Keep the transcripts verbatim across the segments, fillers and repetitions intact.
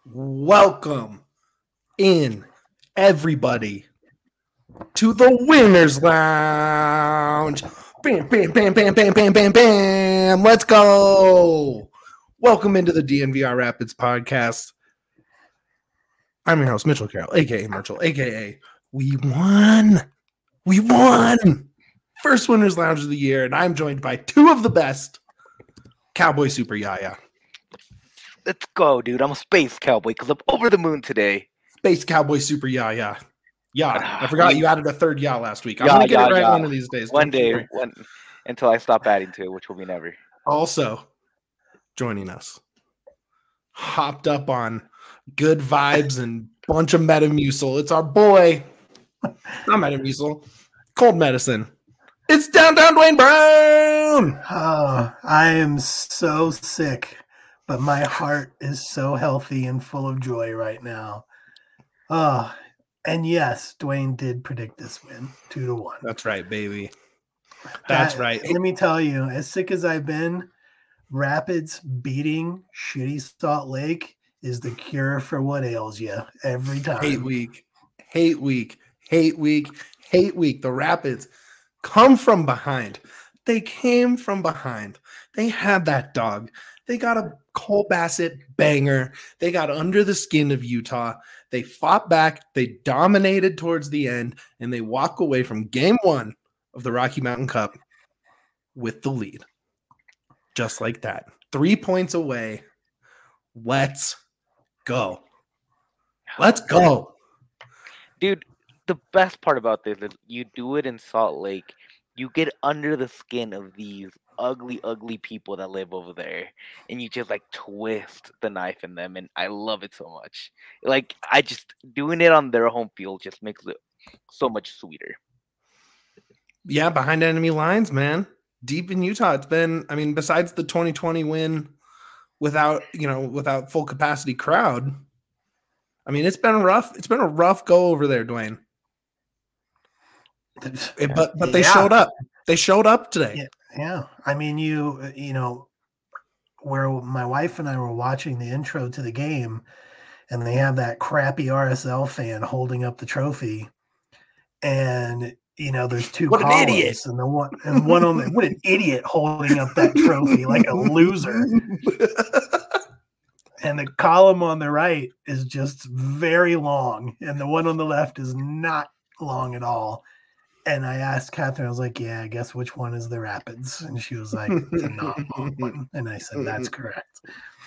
Welcome in, everybody, to the Winners Lounge. Bam, bam, bam, bam, bam, bam, bam, bam. Let's go. Welcome into the D N V R Rapids podcast. I'm your host, Mitchell Carroll, a k a. Mitchell, a k a. We won. We won. First Winners Lounge of the year, and I'm joined by two of the best, Cowboy Super Yaya. Let's go, dude. I'm a space cowboy because I'm over the moon today. Space Cowboy Super Yaya. Yeah, I forgot you added a third yeah last week. I'm Yeah, going to get yeah, it right yeah. one of these days. One Don't you day, worry. one until I stop adding to it, which will be never. Also, joining us, hopped up on good vibes and bunch of Metamucil. It's our boy, not Metamucil, cold medicine. It's Downtown Dwayne Brown. Oh, I am so sick, but my heart is so healthy and full of joy right now. Oh, and yes, Dwayne did predict this win, two to one. That's right, baby. That's That- right. Let me tell you, as sick as I've been, Rapids beating shitty Salt Lake is the cure for what ails you every time. Hate week, hate week, hate week, hate week. The Rapids come from behind. They came from behind. They had that dog. They got a Cole Bassett banger. They got under the skin of Utah. They fought back. They dominated towards the end, and they walk away from game one of the Rocky Mountain Cup with the lead. Just like that. Three points away. Let's go. Let's go. Dude, the best part about this is you do it in Salt Lake. You get under the skin of these ugly, ugly people that live over there, and you just like twist the knife in them, and I love it so much. Like I just doing it on their home field just makes it so much sweeter. Yeah, behind enemy lines, man. Deep in Utah, it's been, I mean, besides the twenty twenty win without, you know, without full capacity crowd, I mean, it's been rough. It's been a rough go over there, Dwayne. It- but but they Yeah. showed up. They showed up today. Yeah. Yeah, I mean, you you know, where my wife and I were watching the intro to the game, and they have that crappy R S L fan holding up the trophy, and you know, there's two What an columns, idiot. and the one and one on the what an idiot holding up that trophy like a loser, and the column on the right is just very long, and the one on the left is not long at all. And I asked Catherine, I was like, yeah, I guess which one is the Rapids? And she was like, the not long one. And I said, that's correct.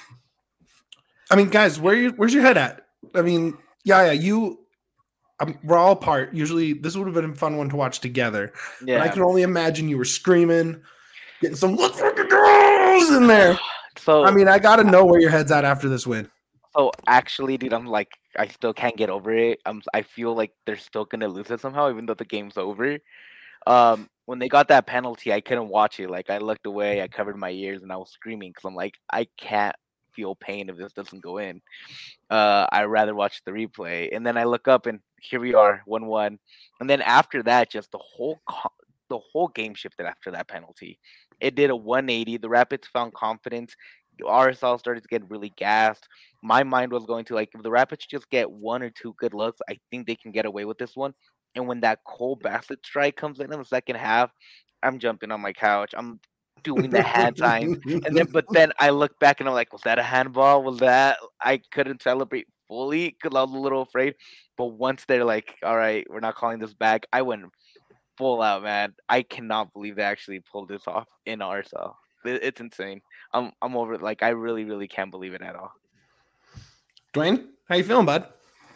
I mean, guys, where you where's your head at? I mean, yeah, yeah, you. Um, we're all apart. Usually, this would have been a fun one to watch together. Yeah. But I can only imagine you were screaming, getting some "let's fucking go" in there. So I mean, I got to know where your head's at after this win. So actually, dude, I'm like, I still can't get over it. I'm, I feel like they're still gonna lose it somehow, even though the game's over. Um, when they got that penalty, I couldn't watch it. Like, I looked away, I covered my ears, and I was screaming because I'm like, I can't feel pain if this doesn't go in. Uh, I'd rather watch the replay. And then I look up, and here we are, one-one. And then after that, just the whole co- the whole game shifted after that penalty. It did a one eighty. The Rapids found confidence. R S L started to get really gassed. My mind was going to, like, if the Rapids just get one or two good looks, I think they can get away with this one. And when that Cole Bassett strike comes in in the second half, I'm jumping on my couch. I'm doing the hand signs. And then, but then I look back and I'm like, was that a handball? Was that? I couldn't celebrate fully because I was a little afraid. But once they're like, all right, we're not calling this back, I went full out, man. I cannot believe they actually pulled this off in R S L. It- It's insane. I'm I'm over it. Like, I really, really can't believe it at all. Dwayne, how you feeling, bud?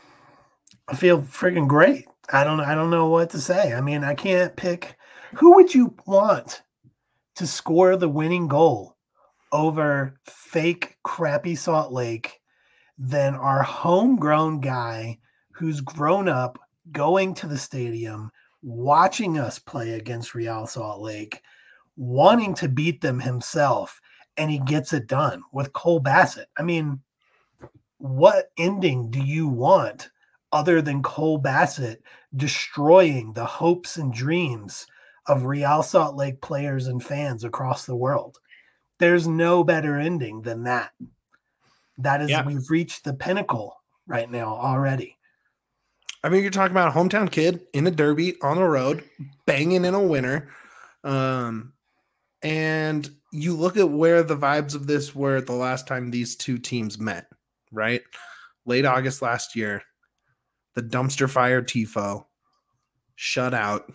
I feel freaking great. I don't I don't know what to say. I mean, I can't pick who would you want to score the winning goal over fake crappy Salt Lake than our homegrown guy who's grown up going to the stadium, watching us play against Real Salt Lake, wanting to beat them himself, and he gets it done with Cole Bassett. I mean, what ending do you want other than Cole Bassett destroying the hopes and dreams of Real Salt Lake players and fans across the world? There's no better ending than that. That is, Yeah. we've reached the pinnacle right now already. I mean, you're talking about a hometown kid in a derby on the road, banging in a winner. Um, and you look at where the vibes of this were the last time these two teams met, right? Late August last year, the dumpster fire Tifo, shut out,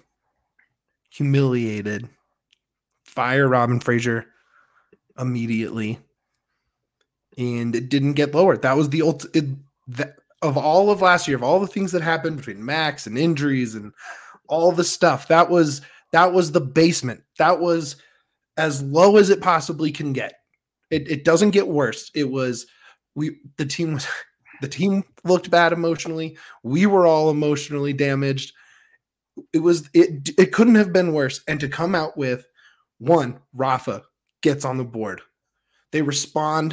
humiliated, fire Robin Fraser immediately, and it didn't get lower. That was the ult- it, that, of all of last year, of all the things that happened between Max and injuries and all the stuff. That was that was the basement. That was as low as it possibly can get. It, it doesn't get worse. It was we the team was the team looked bad emotionally. We were all emotionally damaged. It was it it couldn't have been worse. And to come out with one, Rafa gets on the board. They respond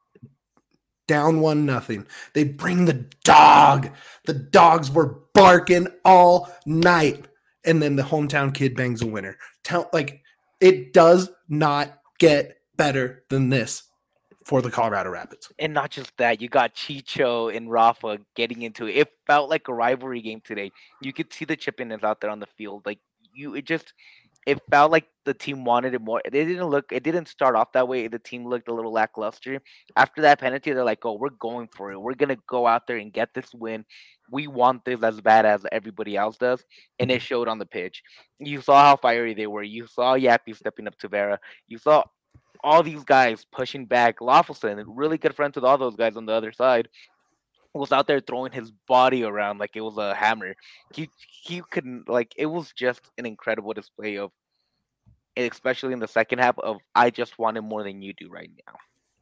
down one nothing. They bring the dog. The dogs were barking all night. And then the hometown kid bangs a winner. Tell like it does not get better than this for the Colorado Rapids. And not just that, you got Chicho and Rafa getting into it. It felt like a rivalry game today. You could see the chippiness out there on the field. Like you, it just it felt like the team wanted it more. It didn't look. It didn't start off that way. The team looked a little lackluster. After that penalty, they're like, "Oh, we're going for it. We're gonna go out there and get this win. We want this as bad as everybody else does." And it showed on the pitch. You saw how fiery they were. You saw Yappy stepping up to Vera. You saw all these guys pushing back. Lawfulson, really good friends with all those guys on the other side, was out there throwing his body around like it was a hammer. He he couldn't like it was just an incredible display of, especially in the second half, of I just wanted more than you do right now.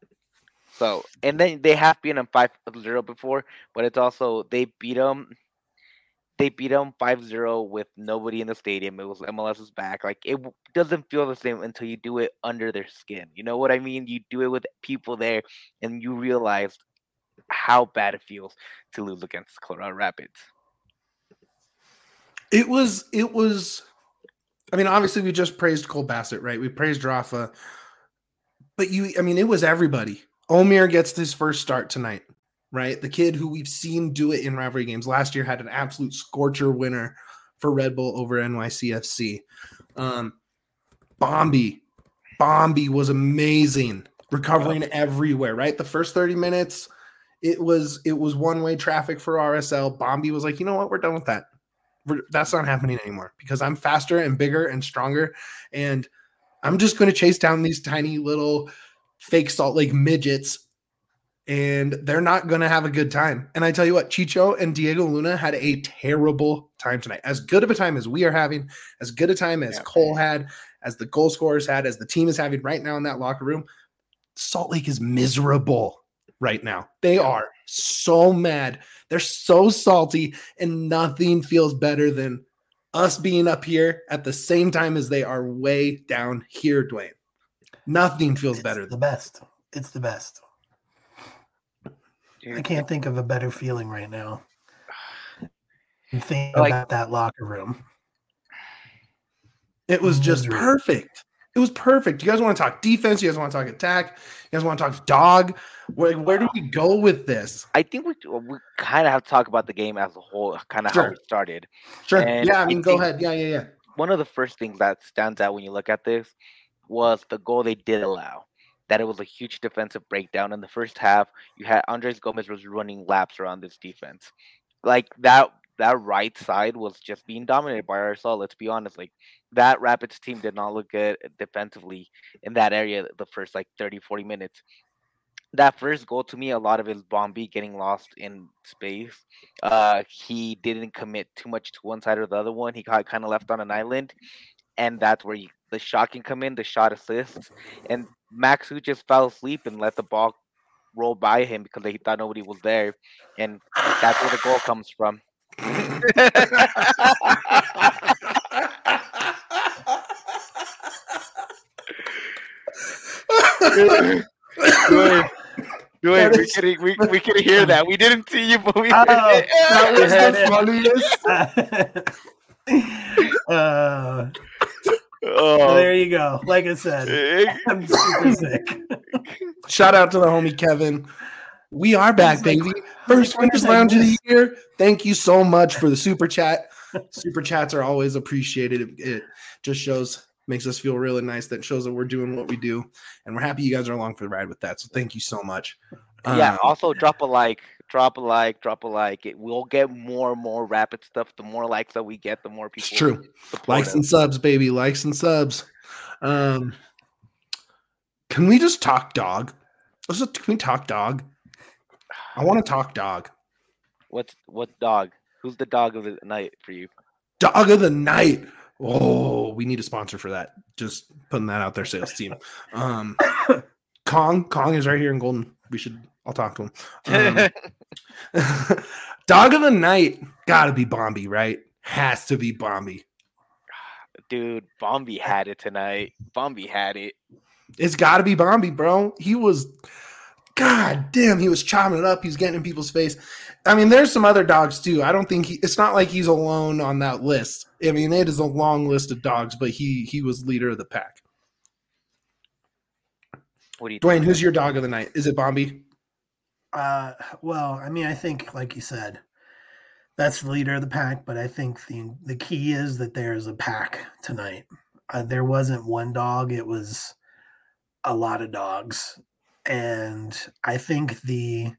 So and then they have beaten them five zero before, but it's also they beat them. They beat them five zero with nobody in the stadium. It was MLS's back. Like it w- doesn't feel the same until you do it under their skin. You know what I mean? You do it with people there, and you realize how bad it feels to lose against Colorado Rapids. It was, it was, I mean, obviously we just praised Cole Bassett, right? We praised Rafa, but you, I mean, it was everybody. Omir gets his first start tonight, right? The kid who we've seen do it in rivalry games last year had an absolute scorcher winner for Red Bull over N Y C F C. Um, Bombi, Bombi was amazing, recovering everywhere, right? The first thirty minutes, it was it was one-way traffic for R S L. Bombi was like, you know what? We're done with that. We're, that's not happening anymore because I'm faster and bigger and stronger. And I'm just going to chase down these tiny little fake Salt Lake midgets, and they're not going to have a good time. And I tell you what, Chicho and Diego Luna had a terrible time tonight. As good of a time as we are having, as good a time as yeah. Cole had, as the goal scorers had, as the team is having right now in that locker room, Salt Lake is miserable right now. They are so mad. They're so salty, and nothing feels better than us being up here at the same time as they are way down here, Dwayne. Nothing feels it's better. The best. It's the best. I can't think of a better feeling right now. Think like, about that locker room. It was just Misery. perfect. It was perfect. You guys want to talk defense? You guys want to talk attack? You guys want to talk dog? Where, where do we go with this? I think we we kind of have to talk about the game as a whole, kind of sure. how it started. Sure. And yeah, I mean, I go ahead. Yeah, yeah, yeah. One of the first things that stands out when you look at this was the goal they did allow. That it was a huge defensive breakdown in the first half. You had Andres Gomez was running laps around this defense, like that. That right side was just being dominated by R S L. Let's be honest. Like that Rapids team did not look good defensively in that area the first like thirty, forty minutes. That first goal, to me, a lot of it is Bombi getting lost in space. Uh, he didn't commit too much to one side or the other one. He got kind of left on an island. And that's where you, the shot can come in, the shot assists. And Max, who just fell asleep and let the ball roll by him because he thought nobody was there. And that's where the goal comes from. Wait, we can we, we can hear that. We didn't see you, but we heard oh, it. That was the funniest. uh, oh. So there you go. Like I said, I'm super sick. Shout out to the homie Kevin. We are back, He's like, baby. "Who First the players Winners I Lounge of the missed?" year. Thank you so much for the super chat. Super chats are always appreciated. It, it just shows, makes us feel really nice. That shows that we're doing what we do, and we're happy you guys are along for the ride with that. So thank you so much. Yeah, Um, also drop a like, drop a like, drop a like. It will get more and more rapid stuff. The more likes that we get, the more people it's true. support Likes us. and subs, baby. Likes and subs. Um, can we just talk dog? Let's just, can we talk dog? I want to talk dog. What's what dog? Who's the dog of the night for you? Dog of the night. Oh, we need a sponsor for that. Just putting that out there, sales team. Um, Kong, Kong is right here in Golden. We should. I'll talk to him. Um, dog of the night, gotta be Bombi, right? Has to be Bombi. Dude, Bombi had it tonight. Bombi had it. It's gotta be Bombi, bro. He was, god damn, he was chopping it up. He was getting in people's face. I mean, there's some other dogs too. I don't think he. It's not like he's alone on that list. I mean, it is a long list of dogs, but he he was leader of the pack. What do you Dwayne, think? who's your dog of the night? Is it Bombi? Uh, well, I mean, I think, like you said, that's the leader of the pack. But I think the the key is that there's a pack tonight. Uh, there wasn't one dog; it was a lot of dogs, and I think the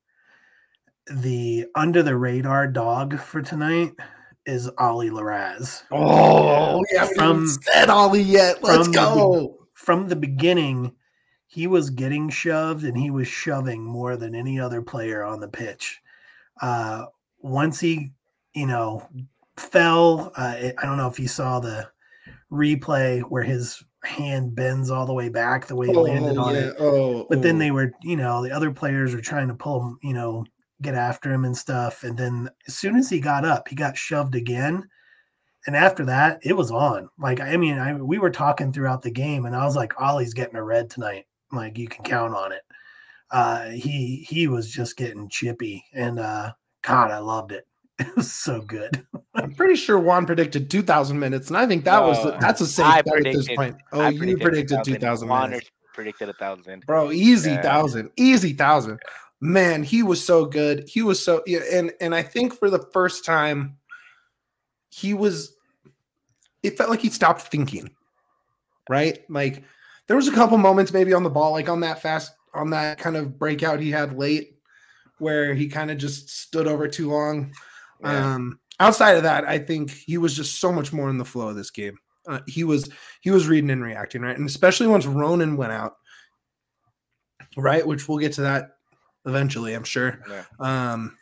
the under the radar dog for tonight is Ollie Laraz. Oh, we haven't From- even said Ollie yet. Let's from the go. From the beginning, he was getting shoved and he was shoving more than any other player on the pitch. Uh, once he, you know, fell, uh, it, I don't know if you saw the replay where his hand bends all the way back the way he landed Oh, on yeah. it. Oh, But then oh. they were, you know, the other players were trying to pull him, you know, get after him and stuff. And then as soon as he got up, he got shoved again. And after that, it was on. Like, I mean, I we were talking throughout the game, and I was like, Ollie's getting a red tonight. Like, you can count on it. Uh, he he was just getting chippy, and uh, God, I loved it. It was so good. I'm pretty sure Juan predicted two thousand minutes, and I think that was No, that's a safe I bet at this predicted- point. Oh, I you predicted two thousand Juaner minutes, predicted a thousand. bro. Easy Yeah. thousand, easy thousand. Man, he was so good. He was so yeah, and and I think for the first time, he was. It felt like he stopped thinking, right? Like there was a couple moments maybe on the ball, like on that fast, on that kind of breakout he had late, where he kind of just stood over too long. Yeah. Um, outside of that, I think he was just so much more in the flow of this game. Uh, he was he was reading and reacting, right? And especially once Ronan went out, right? Which we'll get to that eventually, I'm sure. Yeah. Um,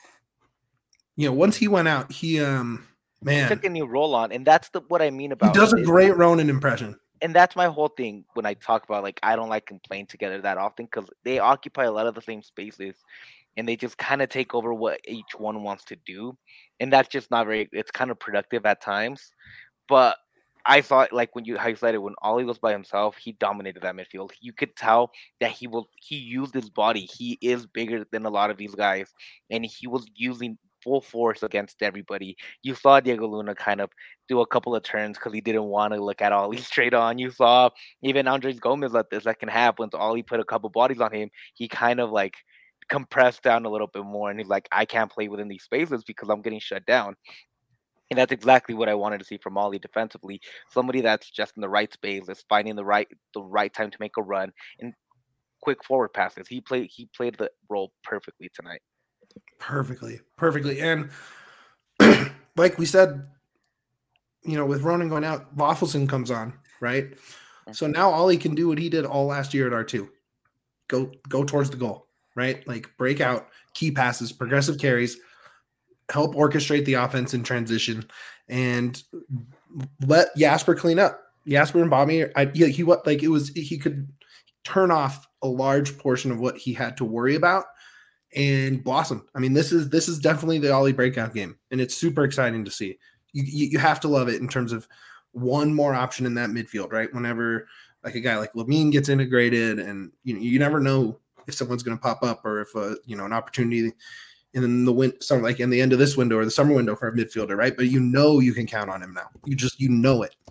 you know, once he went out, he um He man, took a new role on, and that's the what I mean he about does a it. great Ronan impression. And that's my whole thing when I talk about like I don't like them playing together that often because they occupy a lot of the same spaces, and they just kind of take over what each one wants to do, and that's just not very. It's kind of productive at times, but I thought like when you how you said it when Ollie was by himself, he dominated that midfield. You could tell that he will he used his body. He is bigger than a lot of these guys, and he was using full force against everybody. You saw Diego Luna kind of do a couple of turns because he didn't want to look at Ollie straight on. You saw even Andres Gomez at the second half when Ollie put a couple bodies on him, he kind of like compressed down a little bit more, and he's like, I can't play within these spaces because I'm getting shut down. And that's exactly what I wanted to see from Ollie defensively. Somebody that's just in the right space, is finding the right the right time to make a run and quick forward passes. He played he played the role perfectly tonight. Perfectly, perfectly. And like we said, you know, with Ronan going out, Waffleson comes on, right? So now Ollie can do what he did all last year at R two. Go go towards the goal, right? Like break out, key passes, progressive carries, help orchestrate the offense in transition, and let Jasper clean up. Jasper and Bobby, I, he, he what like it was he could turn off a large portion of what he had to worry about and blossom. I mean, this is this is definitely the Ollie breakout game, and it's super exciting to see. You, you you have to love it in terms of one more option in that midfield, right? Whenever like a guy like Lamine gets integrated, and you know you never know if someone's going to pop up or if a you know an opportunity in the win some like in the end of this window or the summer window for a midfielder, right? But you know you can count on him now. You just you know it.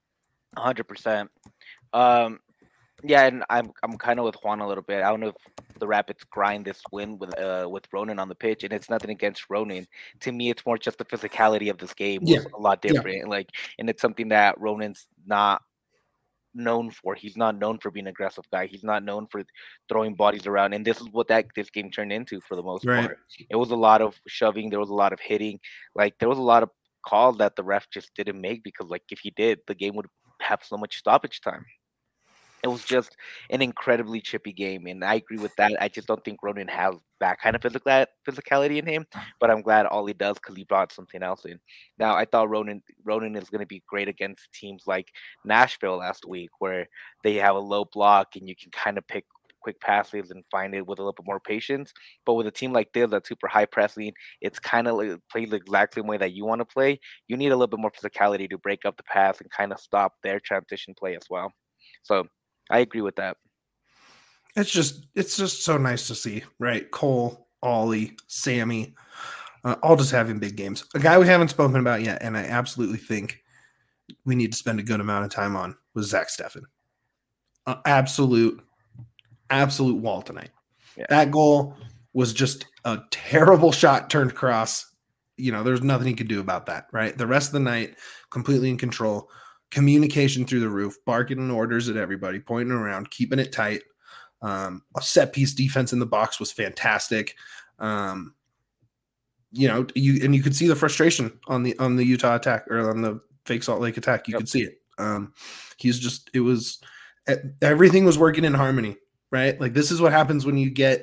one hundred percent. Um, yeah, and I'm I'm kind of with Juan a little bit. I don't know if the Rapids grind this win with uh with Ronan on the pitch, and it's nothing against Ronan. To me, it's more just the physicality of this game Yeah, was a lot yeah. different. Like, and it's something that Ronan's not known for. He's not known for being an aggressive guy. He's not known for throwing bodies around. And this is what that this game turned into for the most Right. part. It was a lot of shoving. There was a lot of hitting. Like there was a lot of calls that the ref just didn't make because like if he did, the game would have so much stoppage time. It was just an incredibly chippy game, and I agree with that. I just don't think Ronan has that kind of physical physicality in him, but I'm glad Ollie does because he brought something else in. Now, I thought Ronan Ronan is going to be great against teams like Nashville last week, where they have a low block and you can kind of pick quick passes and find it with a little bit more patience. But with a team like this that's super high pressing, it's kind of like plays the exact same way that you want to play. You need a little bit more physicality to break up the pass and kind of stop their transition play as well. So I agree with that. It's just it's just so nice to see, right? Cole, Ollie, Sammy, uh, all just having big games. A guy we haven't spoken about yet, and I absolutely think we need to spend a good amount of time on was Zach Steffen. Uh, absolute, absolute wall tonight. Yeah. That goal was just a terrible shot turned cross. You know, there's nothing he could do about that, right? The rest of the night, completely in control. Communication through the roof, barking orders at everybody, pointing around, keeping it tight. Um, a set piece defense in the box was fantastic. Um, you know, you and you could see the frustration on the on the Utah attack or on the fake Salt Lake attack. You yep. could see it. Um, he's just it was everything was working in harmony, right? Like this is what happens when you get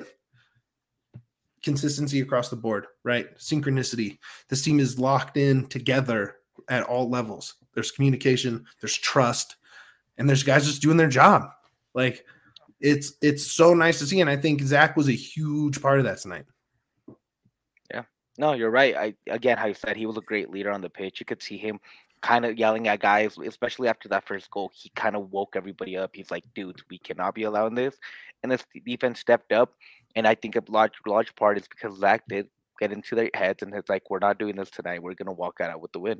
consistency across the board, right? Synchronicity. This team is locked in together at all levels. There's communication, there's trust, and there's guys just doing their job. Like it's it's so nice to see, and I think Zach was a huge part of that tonight. Yeah, no, you're right. I again, how you said, he was a great leader on the pitch. You could see him kind of yelling at guys, especially after that first goal. He kind of woke everybody up. He's like, "Dudes, we cannot be allowing this." And this defense stepped up, and I think a large large part is because Zach did get into their heads, and it's like, "We're not doing this tonight. We're gonna walk out with the win."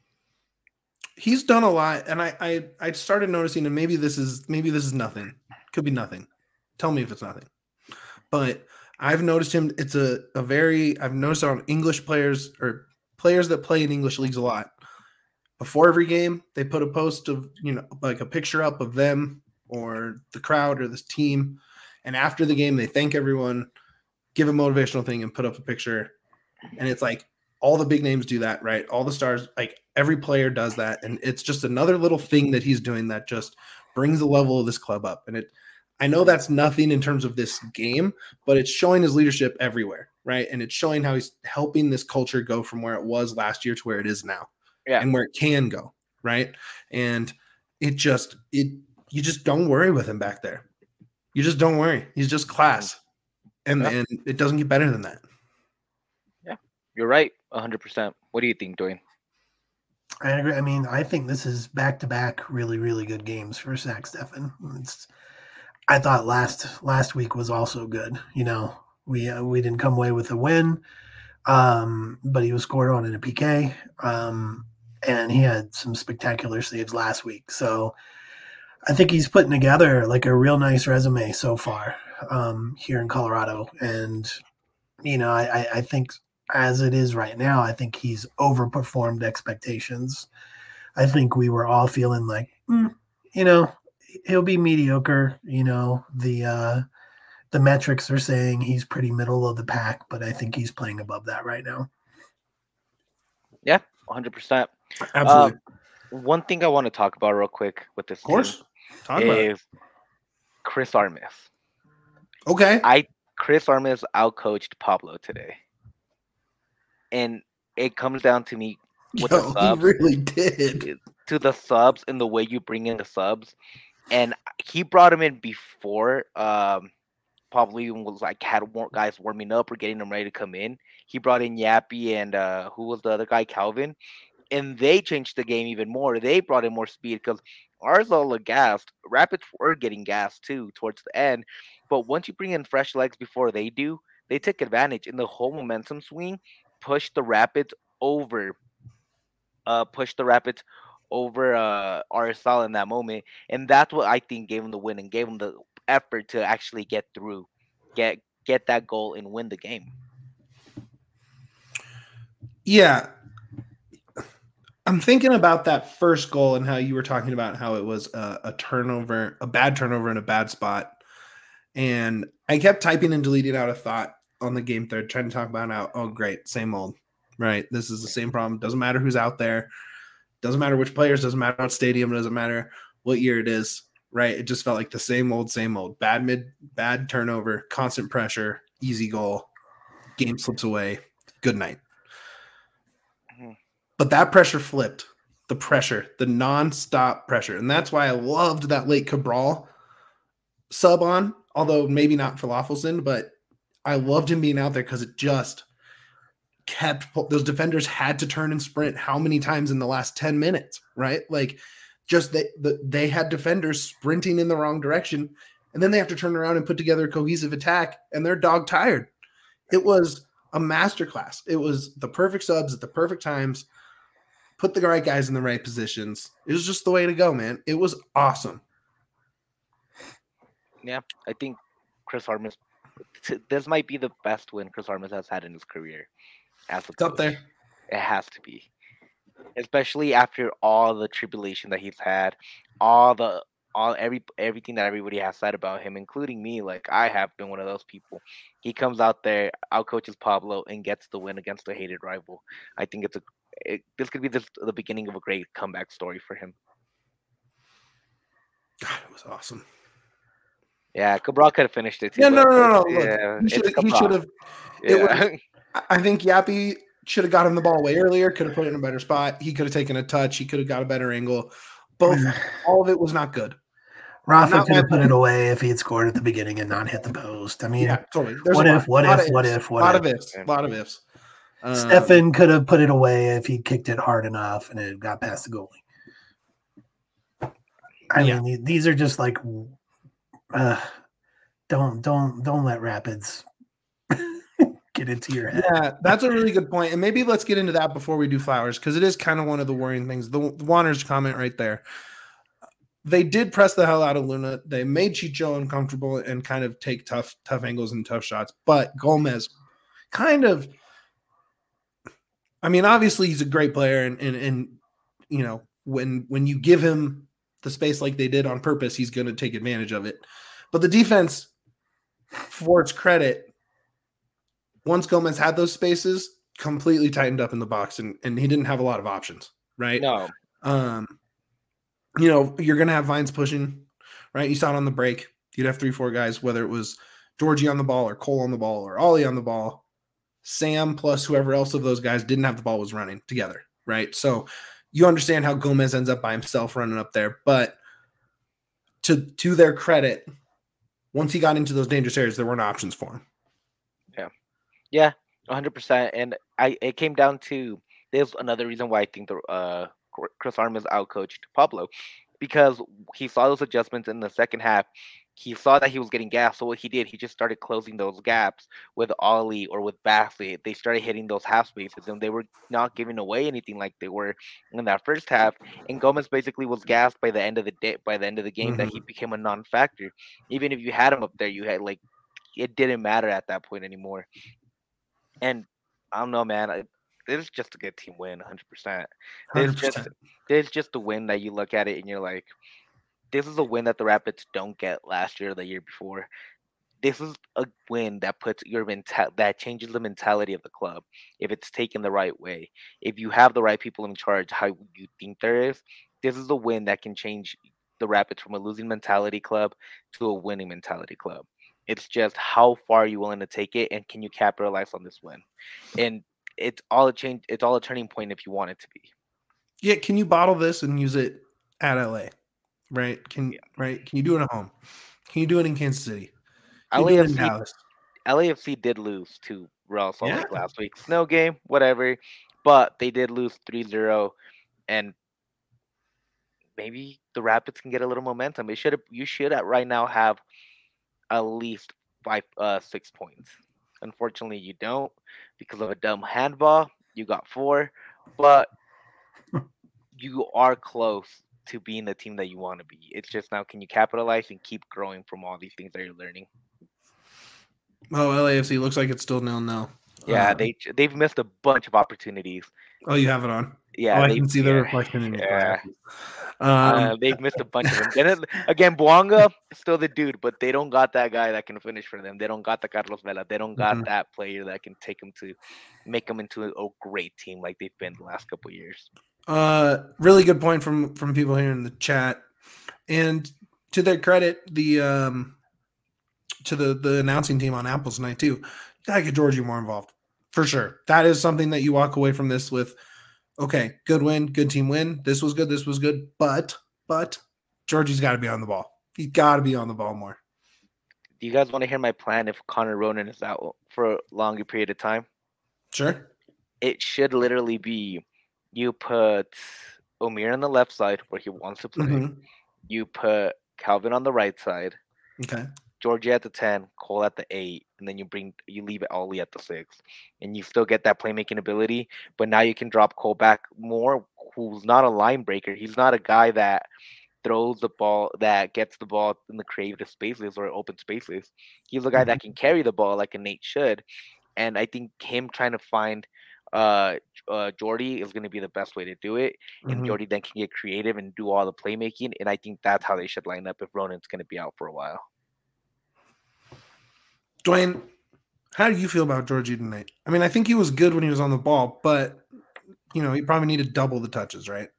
He's done a lot, and I, I I started noticing, and maybe this is maybe this is nothing. Could be nothing. Tell me if it's nothing. But I've noticed him. It's a, a very I've noticed on English players or players that play in English leagues a lot. Before every game, they put a post of, you know, like a picture up of them or the crowd or this team, and after the game, they thank everyone, give a motivational thing, and put up a picture. And it's like all the big names do that, right? All the stars, like every player does that. And it's just another little thing that he's doing that just brings the level of this club up. And it, I know that's nothing in terms of this game, but it's showing his leadership everywhere, right? And it's showing how he's helping this culture go from where it was last year to where it is now, yeah, and where it can go, right? And it just, it, you just don't worry with him back there. You just don't worry. He's just class. And, yeah. and it doesn't get better than that. Yeah, you're right. one hundred percent. What do you think, Dwayne? I agree. I mean, I think this is back-to-back really, really good games for Zach Steffen. It's, I thought last last week was also good. You know, we uh, we didn't come away with a win, um, but he was scored on in a P K, um, and he had some spectacular saves last week. So I think he's putting together like a real nice resume so far um, here in Colorado. And, you know, I, I think as it is right now, I think he's overperformed expectations. I think we were all feeling like, mm, you know, he'll be mediocre. You know, the uh, the metrics are saying he's pretty middle of the pack, but I think he's playing above that right now. Yeah, one hundred percent. Absolutely. Uh, one thing I want to talk about real quick with this of course. Talk is Chris Armas. Okay. I Chris Armas outcoached Pablo today. And it comes down to me with Yo, the subs. He really did. To the subs and the way you bring in the subs. And he brought him in before um, Pablo even was like had guys warming up or getting them ready to come in. He brought in Yappy and uh, who was the other guy, Calvin. And they changed the game even more. They brought in more speed because ours all are gassed. Rapids were getting gassed too towards the end. But once you bring in fresh legs before they do, they take advantage. And the whole momentum swing pushed the Rapids over. Uh, pushed the Rapids over uh, R S L in that moment. And that's what I think gave them the win and gave them the effort to actually get through. get get that goal and win the game. Yeah. I'm thinking about that first goal and how you were talking about how it was a, a turnover, a bad turnover in a bad spot. And I kept typing and deleting out a thought on the game thread, trying to talk about how, oh, great, same old, right? This is the same problem. Doesn't matter who's out there. Doesn't matter which players. Doesn't matter what stadium. Doesn't matter what year it is, right? It just felt like the same old, same old. Bad mid, bad turnover, constant pressure, easy goal, game slips away. Good night. But that pressure flipped. The pressure, the nonstop pressure. And that's why I loved that late Cabral sub on, although maybe not Falafelson, but I loved him being out there because it just kept – those defenders had to turn and sprint how many times in the last ten minutes, right? Like just they, the, they had defenders sprinting in the wrong direction, and then they have to turn around and put together a cohesive attack, and they're dog tired. It was a masterclass. It was the perfect subs at the perfect times. Put the right guys in the right positions. It was just the way to go, man. It was awesome. Yeah, I think Chris Armas, this might be the best win Chris Armas has had in his career. As a It's up there. It has to be. Especially after all the tribulation that he's had, all the all every everything that everybody has said about him, including me. Like I have been one of those people. He comes out there, outcoaches Pablo, and gets the win against a hated rival. I think it's a it, this could be the, the beginning of a great comeback story for him. God, it was awesome. Yeah, Cabral could have finished it too. Yeah, no, no, no, no. Yeah, Look, he should have. Yeah. I think Yappy should have got him the ball way earlier. Could have put it in a better spot. He could have taken a touch. He could have got a better angle. Both, all of it was not good. Rafa Not could have my put point. it away if he had scored at the beginning and not hit the post. I mean, Yeah, totally. There's what a if, lot, what lot if, of what ifs, if, what lot if? of ifs, lot of ifs. Um, Stefan could have put it away if he kicked it hard enough and it got past the goalie. I Yeah. mean, these are just like, uh, don't, don't, don't let Rapids get into your head. Yeah, that's a really good point. And maybe let's get into that before we do Flowers, because it is kind of one of the worrying things. The, the Wanderers comment right there. They did press the hell out of Luna. They made Chicho uncomfortable and kind of take tough, tough angles and tough shots. But Gomez kind of, I mean, obviously he's a great player, and and and you know, when when you give him the space like they did on purpose, he's going to take advantage of it. But the defense, for its credit, once Gomez had those spaces, completely tightened up in the box, and, and he didn't have a lot of options, right? No. Um, you know, you're going to have Vines pushing, right? You saw it on the break. You'd have three, four guys, whether it was Georgie on the ball or Cole on the ball or Ollie on the ball. Sam plus whoever else of those guys didn't have the ball was running together, right? So you understand how Gomez ends up by himself running up there. But to to their credit, once he got into those dangerous areas, there weren't options for him. Yeah. Yeah, one hundred percent. And I it came down to, there's another reason why I think the uh, Chris Armas outcoached Pablo, because he saw those adjustments in the second half. He saw that he was getting gassed. So what he did, he just started closing those gaps with Ollie or with Basley. They started hitting those half spaces, and they were not giving away anything like they were in that first half. And Gomez basically was gassed by the end of the day, by the end of the game, mm-hmm. that he became a non-factor. Even if you had him up there, you had like, it didn't matter at that point anymore. And I don't know, man. I, it's just a good team win, one hundred percent. It's just, it's just a win that you look at it and you're like, this is a win that the Rapids don't get last year or the year before. This is a win that puts your mental that changes the mentality of the club if it's taken the right way. If you have the right people in charge, how you think there is, this is a win that can change the Rapids from a losing mentality club to a winning mentality club. It's just how far are you willing to take it, and can you capitalize on this win? And it's all a change. It's all a turning point if you want it to be. Yeah, can you bottle this and use it at L A? Right? Can yeah. right? Can you do it at home? Can you do it in Kansas City? Can L A F C, you do it in Dallas? L A F C did lose to Real Salt Lake yeah. last week. Snow game, whatever. But they did lose three zero, and maybe the Rapids can get a little momentum. It should you should at right now have at least five, uh, six points. Unfortunately, you don't because of a dumb handball. You got four, but you are close to being the team that you want to be. It's just now, can you capitalize and keep growing from all these things that you're learning? Oh, L A F C looks like it's still nil nil. Yeah, Uh, they they've missed a bunch of opportunities. oh, you have it on. Oh, Yeah, I they can see the yeah, reflection in your yeah. glasses. Uh, Um, they've missed a bunch of them. Then it, again, Buanga still the dude, but they don't got that guy that can finish for them. They don't got the Carlos Vela. They don't got mhm. that player that can take them to make them into a great team like they've been the last couple of years. Uh, really good point from from people here in the chat, and to their credit, the um, to the the announcing team on Apples tonight too. You gotta get Georgie more involved for sure. That is something that you walk away from this with. Okay, good win, good team win. This was good. This was good. But but Georgie's got to be on the ball. He's got to be on the ball more. Do you guys want to hear my plan if Connor Ronan is out for a longer period of time? Sure. It should literally be you put Omir on the left side where he wants to play. Mm-hmm. You put Calvin on the right side. Okay. Georgie at the ten, Cole at the eight, and then you bring you leave it Ollie at the six, and you still get that playmaking ability. But now you can drop Cole back more, who's not a line breaker. He's not a guy that throws the ball, that gets the ball in the creative spaces or open spaces. He's a guy that can carry the ball like a Nate should, and I think him trying to find uh, uh Jordy is going to be the best way to do it, and Mm-hmm. Jordy then can get creative and do all the playmaking, and I think that's how they should line up if Ronan's going to be out for a while. Dwayne, how do you feel about Georgie tonight? I mean, I think he was good when he was on the ball, but you know, he probably needed double the touches, right?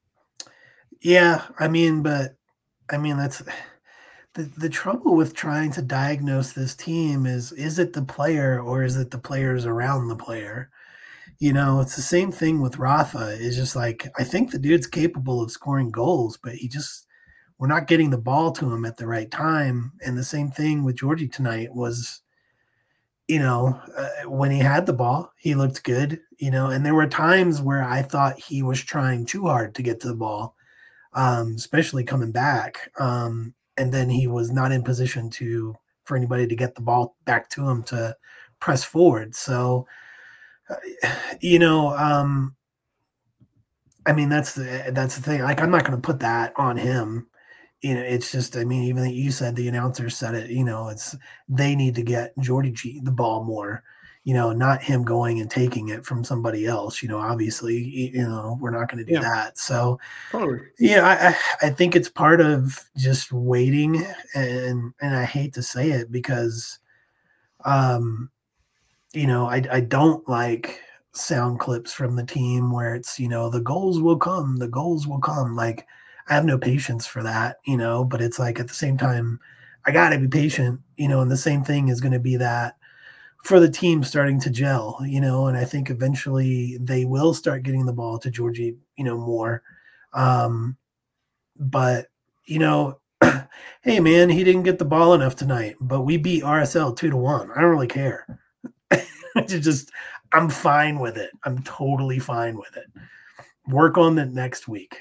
Yeah, I mean, but I mean that's the the trouble with trying to diagnose this team is is it the player or is it the players around the player? You know, it's the same thing with Rafa. It's just like I think the dude's capable of scoring goals, but he just we're not getting the ball to him at the right time. And the same thing with Georgie tonight was, you know, uh, when he had the ball, he looked good, you know, and there were times where I thought he was trying too hard to get to the ball, um, especially coming back. Um, and then he was not in position to for anybody to get the ball back to him to press forward. So, uh, you know, um, I mean, that's the that's the thing. Like, I'm not going to put that on him. You know, it's just, I mean, even you said the announcer said it. You know, it's they need to get Jordy G the ball more. You know, not him going and taking it from somebody else. You know, obviously, you know, we're not going to do Yeah. that. So, Totally. yeah, I, I think it's part of just waiting, and and I hate to say it because, um, you know, I I don't like sound clips from the team where it's, you know, the goals will come, the goals will come. Like, I have no patience for that, you know, but it's like at the same time, I got to be patient, you know, and the same thing is going to be that for the team starting to gel, you know, and I think eventually they will start getting the ball to Georgie, you know, more. Um, but, you know, hey, man, he didn't get the ball enough tonight, but we beat R S L two to one. I don't really care. just I'm fine with it. I'm totally fine with it. Work on it next week.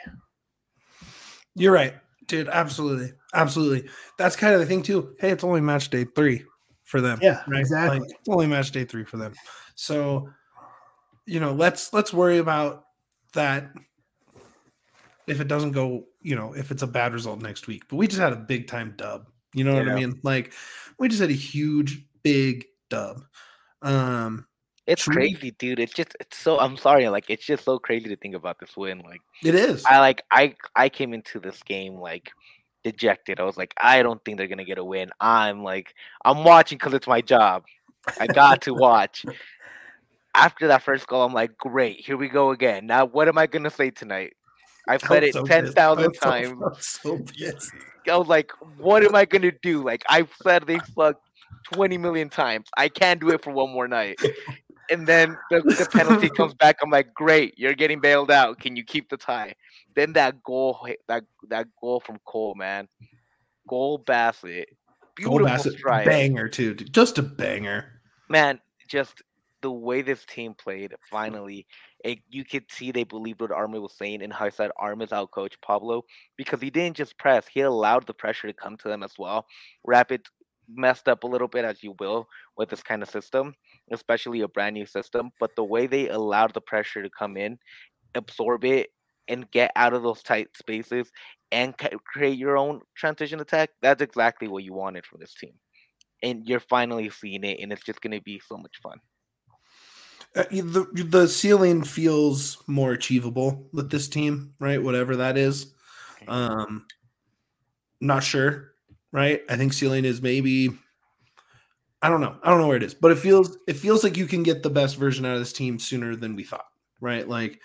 You're right, dude. Absolutely. Absolutely. That's kind of the thing too. Hey, it's only match day three for them. Yeah, right? exactly. Like, it's only match day three for them. So, you know, let's let's worry about that if it doesn't go, you know, if it's a bad result next week. But we just had a big time dub. You know what Yeah. I mean? Like, we just had a huge, big dub. Um, It's should we- crazy, dude. It's just it's so I'm sorry, like it's just so crazy to think about this win. Like It is. I like I I came into this game like dejected. I was like, I don't think they're gonna get a win. I'm like I'm watching because it's my job. I got to watch. After that first goal, I'm like, great, here we go again. Now what am I gonna say tonight? I've I said was it so ten pissed. I thousand was so- times. I was so pissed. I was like, what am I gonna do? Like I've said they suck twenty million times. I can't do it for one more night. And then the, the penalty comes back. I'm like, great, you're getting bailed out. Can you keep the tie? Then that goal, that that goal from Cole, man, goal Bassett, Goal beautiful Bassett, strike, banger too. Dude. Just a banger. man. Just the way this team played, finally, it, you could see they believed what Armin was saying and how he said Armin's out coach Pablo because he didn't just press; he allowed the pressure to come to them as well. Rapid messed up a little bit as you will with this kind of system, especially a brand new system. But the way they allowed the pressure to come in, absorb it, and get out of those tight spaces and ca- create your own transition attack, that's exactly what you wanted from this team. and you're finally seeing it, and it's just gonna be so much fun. Uh, the the ceiling feels more achievable with this team, right? Whatever that is. Um, not sure, right? I think ceiling is maybe. I don't know. I don't know where it is, but it feels it feels like you can get the best version out of this team sooner than we thought, right? Like,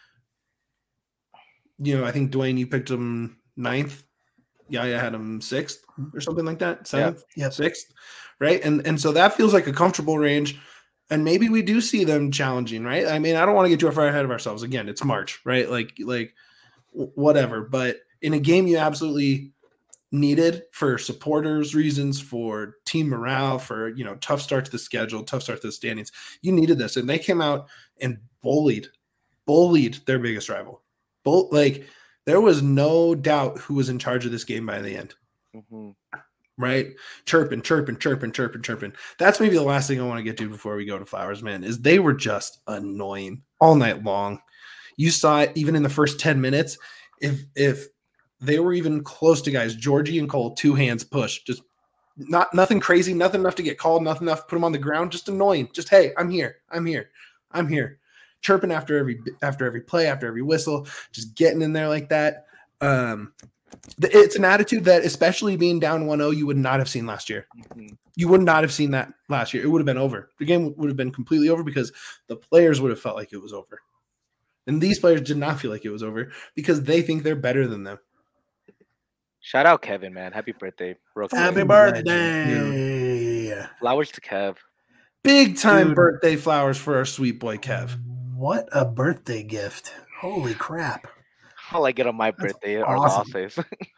you know, I think Dwayne, you picked him ninth. Yeah, I had him sixth or something like that, seventh, yeah. sixth, right? And and so that feels like a comfortable range. And maybe we do see them challenging, right? I mean, I don't want to get too far ahead of ourselves. Again, it's March, right? Like, like whatever. But in a game you absolutely needed for supporters reasons, for team morale, for, you know, tough start to the schedule, tough start to the standings, you needed this. And they came out and bullied, bullied their biggest rival. Bull, like, there was no doubt who was in charge of this game by the end. Mm-hmm. Right? Chirping, chirping, chirping, chirping, chirping. That's maybe the last thing I want to get to before we go to Flowers, man, is they were just annoying all night long. You saw it even in the first ten minutes. If if they were even close to guys, Georgie and Cole, two hands push, just not nothing crazy, nothing enough to get called, nothing enough to put them on the ground, just annoying. Just, hey, I'm here. I'm here. I'm here. Chirping after every after every play, after every whistle, just getting in there like that. Um It's an attitude that, especially being down one oh, you would not have seen last year. Mm-hmm. You would not have seen that last year. It would have been over. The game would have been completely over because the players would have felt like it was over. And these players did not feel like it was over because they think they're better than them. Shout out Kevin, man. Happy birthday. Real quick. Happy birthday. Legend, Flowers to Kev. Big time Dude. birthday flowers for our sweet boy Kev. What a birthday gift. Holy crap. All I get on my birthday are awesome. losses.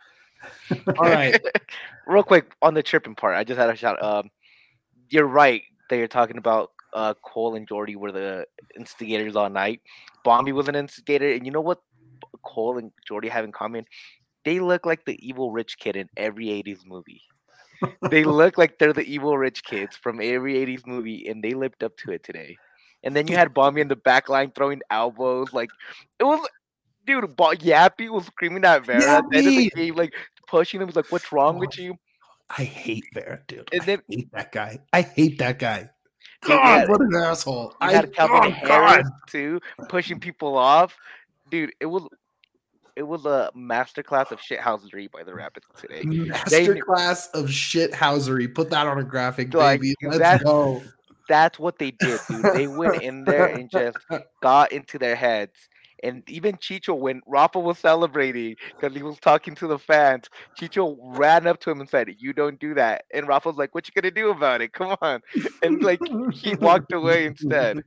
All right. Real quick on the chirping part, I just had a shout. Um, you're right that you're talking about uh, Cole and Jordy were the instigators all night. Bombi was an instigator, and you know what Cole and Jordy have in common? They look like the evil rich kid in every eighties movie. They look like they're the evil rich kids from every eighties movie, and they lived up to it today. And then you had Bombi in the back line throwing elbows. Like, it was, dude, Bo- Yappy was screaming at Vera at the end of the game, like, pushing him. He was like, what's wrong with you? I hate Vera, dude. And I then- hate that guy. I hate that guy. Dude, you God, had- what an asshole. You I had Calvin oh, Harris, God. too, pushing people off. Dude, it was it was a masterclass of shithousery by the Rapids today. Masterclass of shithousery. Put that on a graphic, Like, baby. Let's that's- go. That's what they did, dude. They went in there and just got into their heads. And even Chicho, when Rafa was celebrating because he was talking to the fans, Chicho ran up to him and said, "You don't do that." And Rafa was like, "What you gonna do about it? Come on!" And like he walked away instead.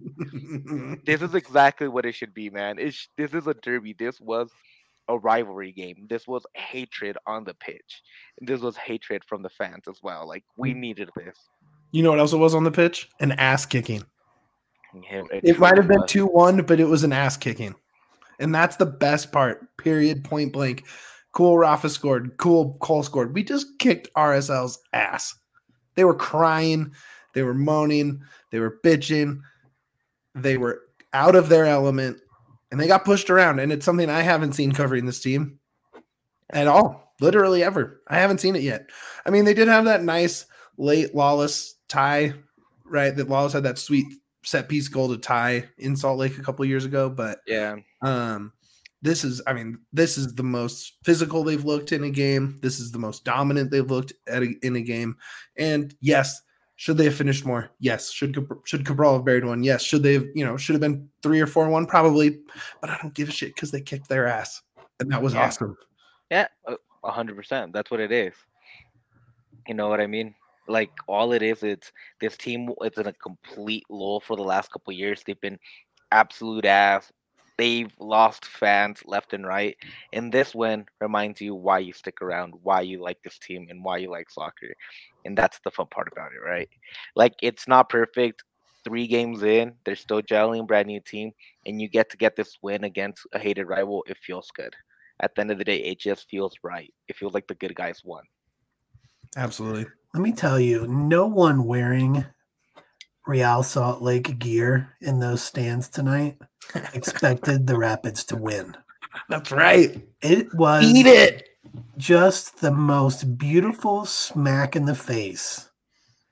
This is exactly what it should be, man. It's this is a derby. This was a rivalry game. This was hatred on the pitch. And this was hatred from the fans as well. Like we needed this. You know what else it was on the pitch? An ass kicking. Yeah, It might have been was. two one, but it was an ass kicking. And that's the best part. Period. Point blank. Cool Rafa scored. Cool Cole scored. We just kicked R S L's ass. They were crying. They were moaning. They were bitching. They were out of their element. And they got pushed around. And it's something I haven't seen covering this team at all. Literally ever. I haven't seen it yet. I mean, they did have that nice late Lawless tie, right? That Lawless had that sweet set piece goal to tie in Salt Lake a couple years ago. But Yeah. um, this is, I mean, this is the most physical they've looked in a game. This is the most dominant they've looked at a, in a game. And yes, should they have finished more? Yes. Should should Cabral have buried one? Yes. Should they have, you know, should have been three or four one? Probably. But I don't give a shit because they kicked their ass. And that was Yeah. awesome. Yeah, a hundred percent. That's what it is. You know what I mean? Like all it is, it's this team. It's in a complete lull for the last couple of years. They've been absolute ass. They've lost fans left and right, and this win reminds you why you stick around, why you like this team, and why you like soccer. And that's the fun part about it, right? Like it's not perfect. Three games in, they're still gelling, brand new team, and you get to get this win against a hated rival. It feels good. At the end of the day, it just feels right. It feels like the good guys won. Absolutely. Let me tell you, no one wearing Real Salt Lake gear in those stands tonight expected the Rapids to win. That's right. It was Eat it. just the most beautiful smack in the face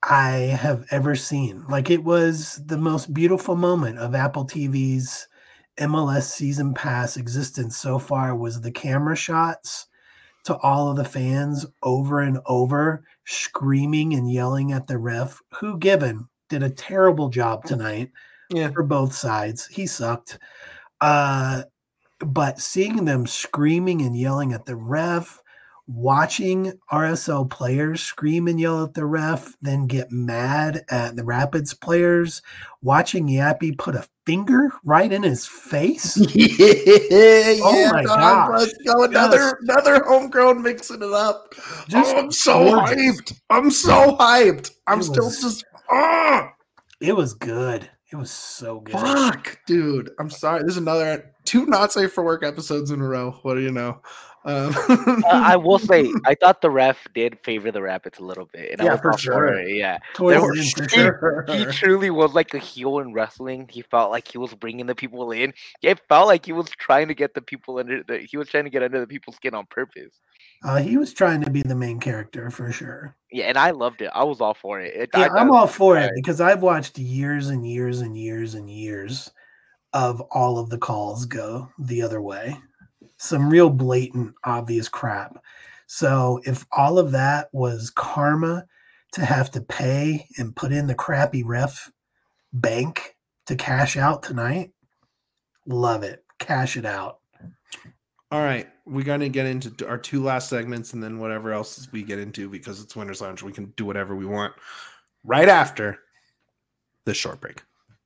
I have ever seen. Like, it was the most beautiful moment of Apple T V's M L S season pass existence so far was the camera shots to all of the fans over and over screaming and yelling at the ref, who given did a terrible job tonight Yeah. for both sides. He sucked. Uh, but seeing them screaming and yelling at the ref, watching R S L players scream and yell at the ref, then get mad at the Rapids players, watching Yappy put a finger right in his face. yeah, Oh my dog, gosh. let's go. Another Just- another homegrown mixing it up. Just oh, I'm so gorgeous. hyped. I'm so hyped. I'm It still was- just oh It was good. It was so good. fuck, dude. I'm sorry. There's another two not safe for work episodes in a row. What do you know? Um, Uh, I will say, I thought the ref did favor the Rapids a little bit, and I Yeah, was for all sure. it. Yeah, Towards There the were- end, for he- sure. he truly was like a heel in wrestling. He felt like he was bringing the people in. It felt like he was trying to get the people under. The, he was trying to get under the people's skin on purpose. Uh, he was trying to be the main character for sure. Yeah, and I loved it. I was all for it. it Yeah, I, I'm I- all for it right. because I've watched years and years and years and years of all of the calls go the other way. Some real blatant, obvious crap. So if all of that was karma to have to pay and put in the crappy ref bank to cash out tonight, love it. Cash it out. All right, we're gonna get into our two last segments, and then whatever else we get into, because it's Winners Lounge, we can do whatever we want right after this short break.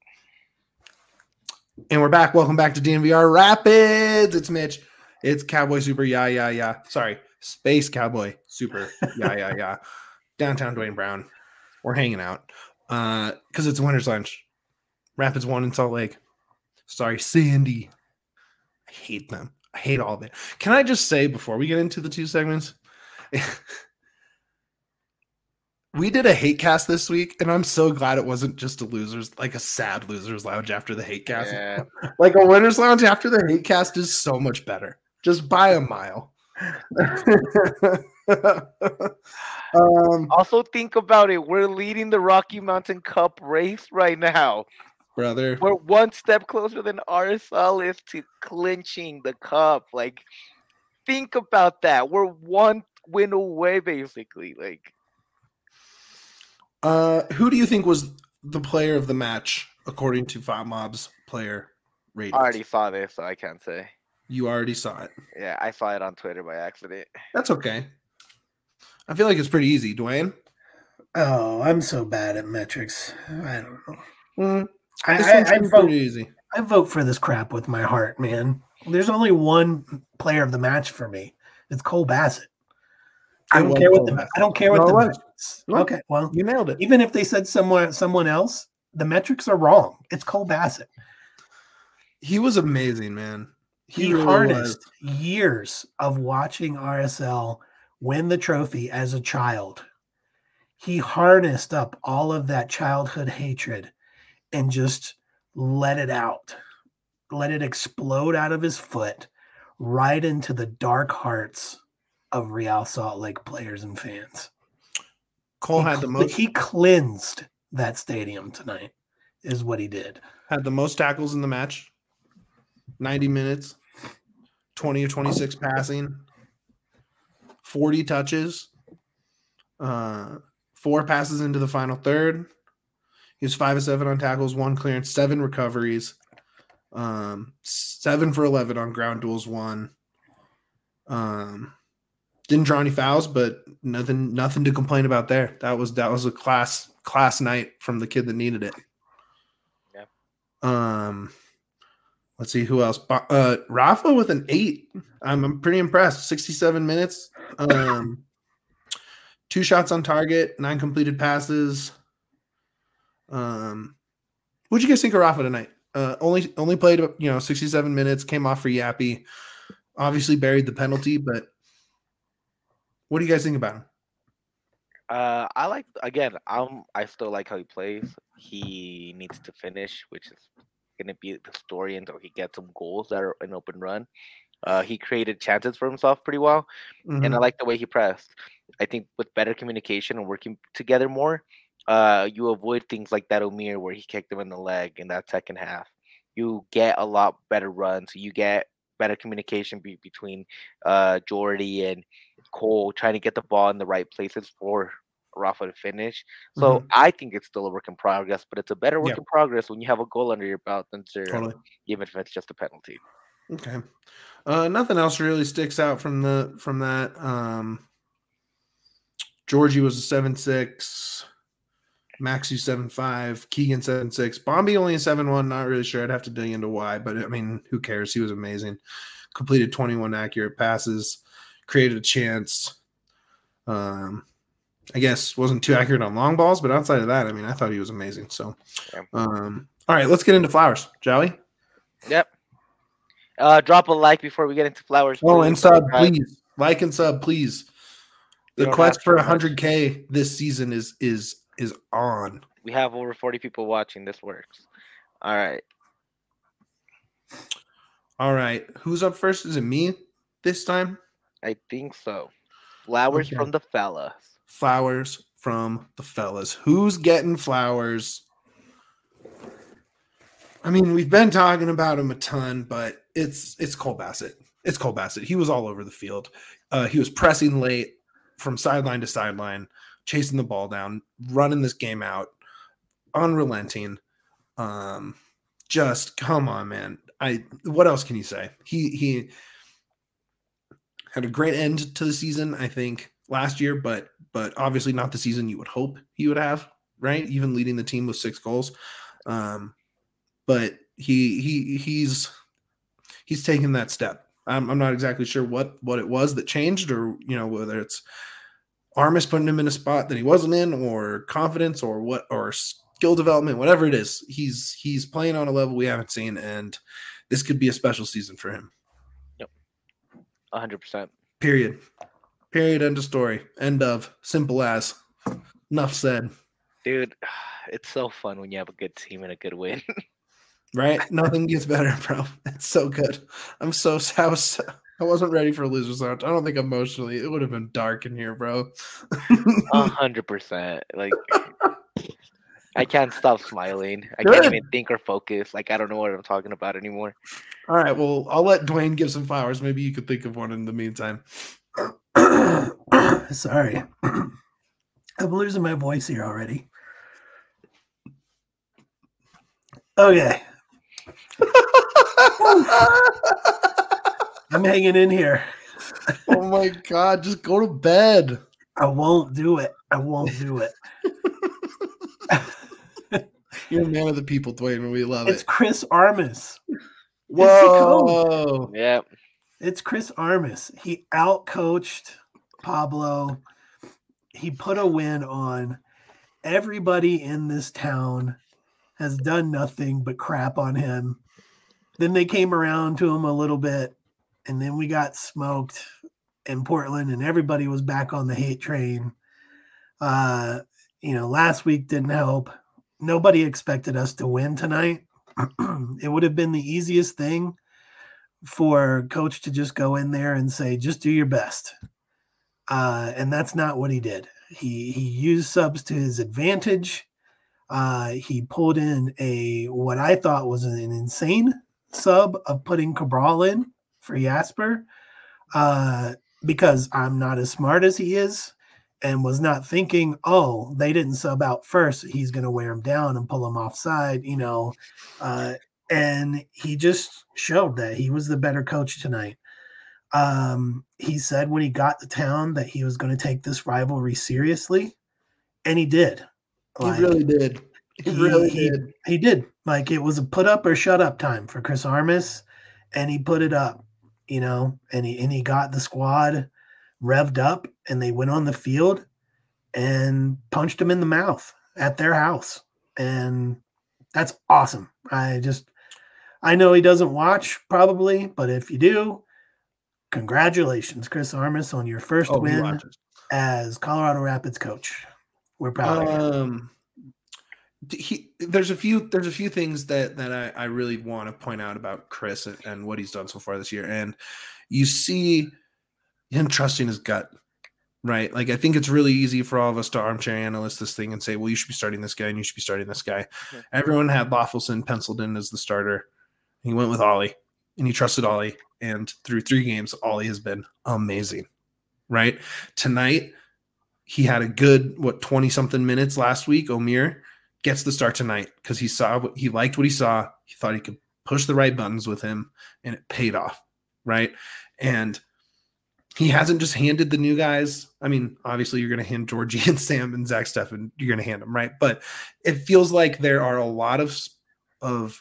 And we're back. Welcome back to D N V R Rapids. It's Mitch. It's Cowboy Super. Yeah, yeah, yeah. Sorry, Space Cowboy Super. Yeah, yeah, yeah. Downtown Dwayne Brown. We're hanging out uh, because it's Winners Lunch. Rapids won in Salt Lake. Sorry, Sandy. I hate them. I hate all of it. Can I just say before we get into the two segments, we did a hate cast this week, and I'm so glad it wasn't just a losers, like a sad losers lounge after the hate cast. Yeah. Like a winners lounge after the hate cast is so much better, just by a mile. um, Also, think about it. We're leading the Rocky Mountain Cup race right now. brother, We're one step closer than R S L is to clinching the cup. Like, think about that. We're one win away, basically. Like, uh, who do you think was the player of the match according to Five Mob's player rating? I already saw this, so I can't say. You already saw it. Yeah, I saw it on Twitter by accident. That's okay. I feel like it's pretty easy, Dwayne. Oh, I'm so bad at metrics. I don't know. Mm, I, this I, one's I, pretty vote, easy. I vote for this crap with my heart, man. There's only one player of the match for me. It's Cole Bassett. I It don't was care what Cole the Bassett. I don't care what No, the it was. metrics. No. Okay, well, You nailed it. even if they said someone someone else, the metrics are wrong. It's Cole Bassett. He was amazing, man. He, He, really harnessed was. years of watching R S L win the trophy as a child. He harnessed up all of that childhood hatred and just let it out. Let it explode out of his foot right into the dark hearts of Real Salt Lake players and fans. Cole he, had the most he cleansed that stadium tonight, is what he did. had the most tackles in the match. ninety minutes, twenty of twenty-six passing, forty touches, uh, four passes into the final third. He was five of seven on tackles, one clearance, seven recoveries, um, seven for eleven on ground duels, one. Um, didn't draw any fouls, but nothing, nothing to complain about there. That was that was a class class night from the kid that needed it. Yeah. Um. Let's see who else. Uh, Rafa with an eight. I'm, I'm pretty impressed. sixty-seven minutes. Um, two shots on target, nine completed passes. Um, what'd you guys think of Rafa tonight? Uh, only only played you know sixty-seven minutes. Came off for Yappy. Obviously buried the penalty, but what do you guys think about him? Uh, I like again. I'm. I still like how he plays. He needs to finish, which is going to be the story until he gets some goals that are an open run. Uh, he created chances for himself pretty well, Mhm. and I like the way he pressed. I think with better communication and working together more, Uh, you avoid things like that Omir where he kicked him in the leg in that second half. You get a lot better runs. You get better communication be- between uh, Jordy and Cole trying to get the ball in the right places for Rafa to finish. So Mhm. I think it's still a work in progress, but it's a better work Yeah. in progress when you have a goal under your belt than zero, Totally. even if it's just a penalty. Okay. Uh, nothing else really sticks out from the from that. Um, Georgie was a seven six. Maxi seven five, Keegan seven six, Bombi only a seven one. Not really sure. I'd have to dig into why, but I mean, who cares? He was amazing. Completed twenty-one accurate passes, created a chance. Um, I guess wasn't too accurate on long balls, but outside of that, I mean, I thought he was amazing. So, Yeah. um, all right, let's get into Flowers, shall we? Yep. Uh, drop a like before we get into Flowers. Oh, please. and sub, Subscribe. please like and sub, please. We The don't quest ask for for much. one hundred K this season is is is on. We have over forty people watching. This works. All right. All right, who's up first? Is it me this time? I think so. Flowers Okay. from the fellas. Flowers from the fellas. Who's getting flowers? I mean, we've been talking about him a ton, but it's it's Cole Bassett. It's Cole Bassett. He was all over the field. Uh, he was pressing late from sideline to sideline, chasing the ball down, running this game out, unrelenting. Um, just come on, man. I what else can you say? He he had a great end to the season, I think, last year, but but obviously not the season you would hope he would have, right? Even leading the team with six goals. Um, but he he he's he's taken that step. I'm, I'm not exactly sure what what it was that changed, or you know whether it's Armas putting him in a spot that he wasn't in, or confidence, or what, or skill development, whatever it is. He's he's playing on a level we haven't seen, and this could be a special season for him. Yep, one hundred percent. Period. Period. End of story. End of. Simple as. Enough said. Dude, it's so fun when you have a good team and a good win. Right? Nothing gets better, bro. It's so good. I'm so I was I wasn't ready for losers lounge. I don't think emotionally it would have been dark in here, bro. A hundred percent. Like I can't stop smiling. I Good. can't even think or focus. Like I don't know what I'm talking about anymore. All right. Well, I'll let Dwayne give some flowers. Maybe you could think of one in the meantime. Sorry. I'm losing my voice here already. Okay. I'm hanging in here. Oh my God. Just go to bed. I won't do it. I won't do it. You're a man of the people, Dwayne, and we love It's it. Chris Armas. Whoa. Yeah. It's Chris Armas. He outcoached Pablo. He put a win on. Everybody in this town has done nothing but crap on him. Then they came around to him a little bit, and then we got smoked in Portland, and everybody was back on the hate train. Uh, you know, last week didn't help. Nobody expected us to win tonight. It would have been the easiest thing for coach to just go in there and say, just do your best. Uh, and that's not what he did. He he used subs to his advantage. Uh, he pulled in a what I thought was an insane sub of putting Cabral in for Jasper, uh, because I'm not as smart as he is, and was not thinking, oh, they didn't sub out first. He's going to wear him down and pull him offside, you know. Uh, and he just showed that he was the better coach tonight. Um, he said when he got to town that he was going to take this rivalry seriously, and he did. Like, he really did. He, he really he, did. He did. Like it was a put up or shut up time for Chris Armas, and he put it up, you know, and he and he got the squad revved up, and they went on the field and punched him in the mouth at their house. And that's awesome. I just I know he doesn't watch probably, but if you do, congratulations, Chris Armas, on your first oh, win as Colorado Rapids coach. We're proud of you. Um, he, there's a few there's a few things that that I, I really want to point out about Chris and, and what he's done so far this year. And you see him trusting his gut, right? Like, I think it's really easy for all of us to armchair analyze this thing and say, well, you should be starting this guy and you should be starting this guy. Mm-hmm. Everyone had Loffelson penciled in as the starter. He went with Ollie, and he trusted Ollie. And through three games, Ollie has been amazing, right? Tonight, he had a good, what, twenty-something minutes last week. Omier gets the start tonight because he saw what he liked what he saw. He thought he could push the right buttons with him, and it paid off, right? And he hasn't just handed the new guys. I mean, obviously, you're going to hand Georgie and Sam and Zach Steffen. You're going to hand them, right? But it feels like there are a lot of of.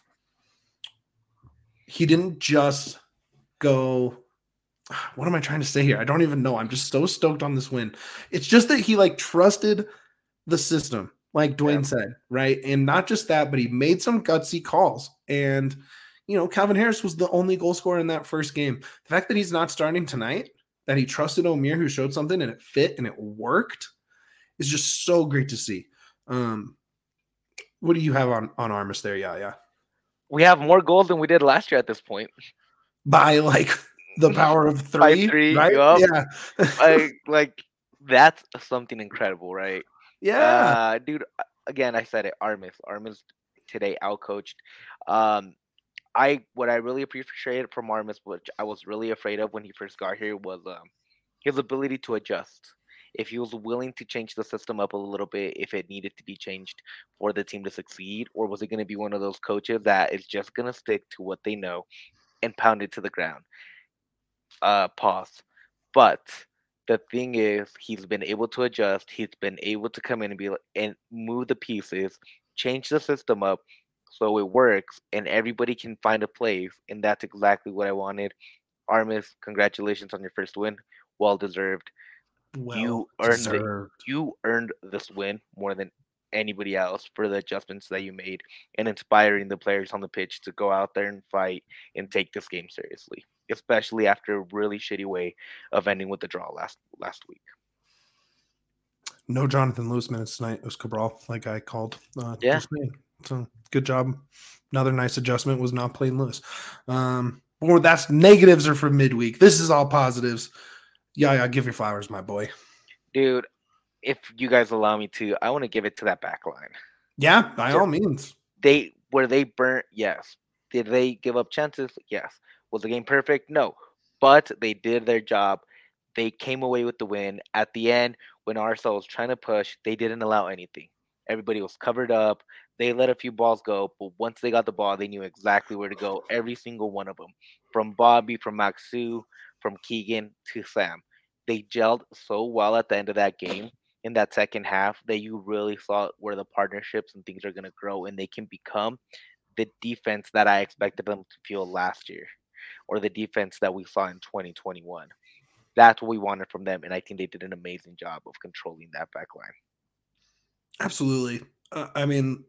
He didn't just go. What am I trying to say here? I don't even know. I'm just so stoked on this win. It's just that he like trusted the system, like Dwayne yeah. said, right? And not just that, but he made some gutsy calls. And, you know, Calvin Harris was the only goal scorer in that first game. The fact that he's not starting tonight, that he trusted Omier, who showed something and it fit and it worked, is just so great to see. Um, what do you have on, on Armas there? Yeah, yeah. We have more goals than we did last year at this point. By like the power of three, three right? Yep. Yeah. like, like that's something incredible, right? Yeah. Uh, dude, again, I said it, Armas. Armas today outcoached. Um, I what I really appreciated from Armas, which I was really afraid of when he first got here, was um, his ability to adjust. If he was willing to change the system up a little bit, if it needed to be changed for the team to succeed, or was it going to be one of those coaches that is just going to stick to what they know and pound it to the ground? Uh, pause. But the thing is, he's been able to adjust. He's been able to come in and be and move the pieces, change the system up so it works, and everybody can find a place. And that's exactly what I wanted. Armas, congratulations on your first win. Well deserved. Well you earned deserved. it. You earned this win more than anybody else for the adjustments that you made and inspiring the players on the pitch to go out there and fight and take this game seriously, especially after a really shitty way of ending with the draw last last week. No Jonathan Lewis minutes tonight. It was Cabral, like I called. Uh, yeah. So good job. Another nice adjustment was not playing Lewis. Um, or that's negatives are for midweek. This is all positives. Yeah, yeah, give your flowers, my boy. Dude, if you guys allow me to, I want to give it to that back line. Yeah, by Just, all means. They were they burnt? Yes. Did they give up chances? Yes. Was the game perfect? No. But they did their job. They came away with the win. At the end, when R S L was trying to push, they didn't allow anything. Everybody was covered up. They let a few balls go, but once they got the ball, they knew exactly where to go. Every single one of them. From Bobby, from Maxu, from Keegan to Sam. They gelled so well at the end of that game in that second half that you really saw where the partnerships and things are going to grow and they can become the defense that I expected them to feel last year or the defense that we saw in twenty twenty-one. That's what we wanted from them, and I think they did an amazing job of controlling that back line. Absolutely. Uh, I mean,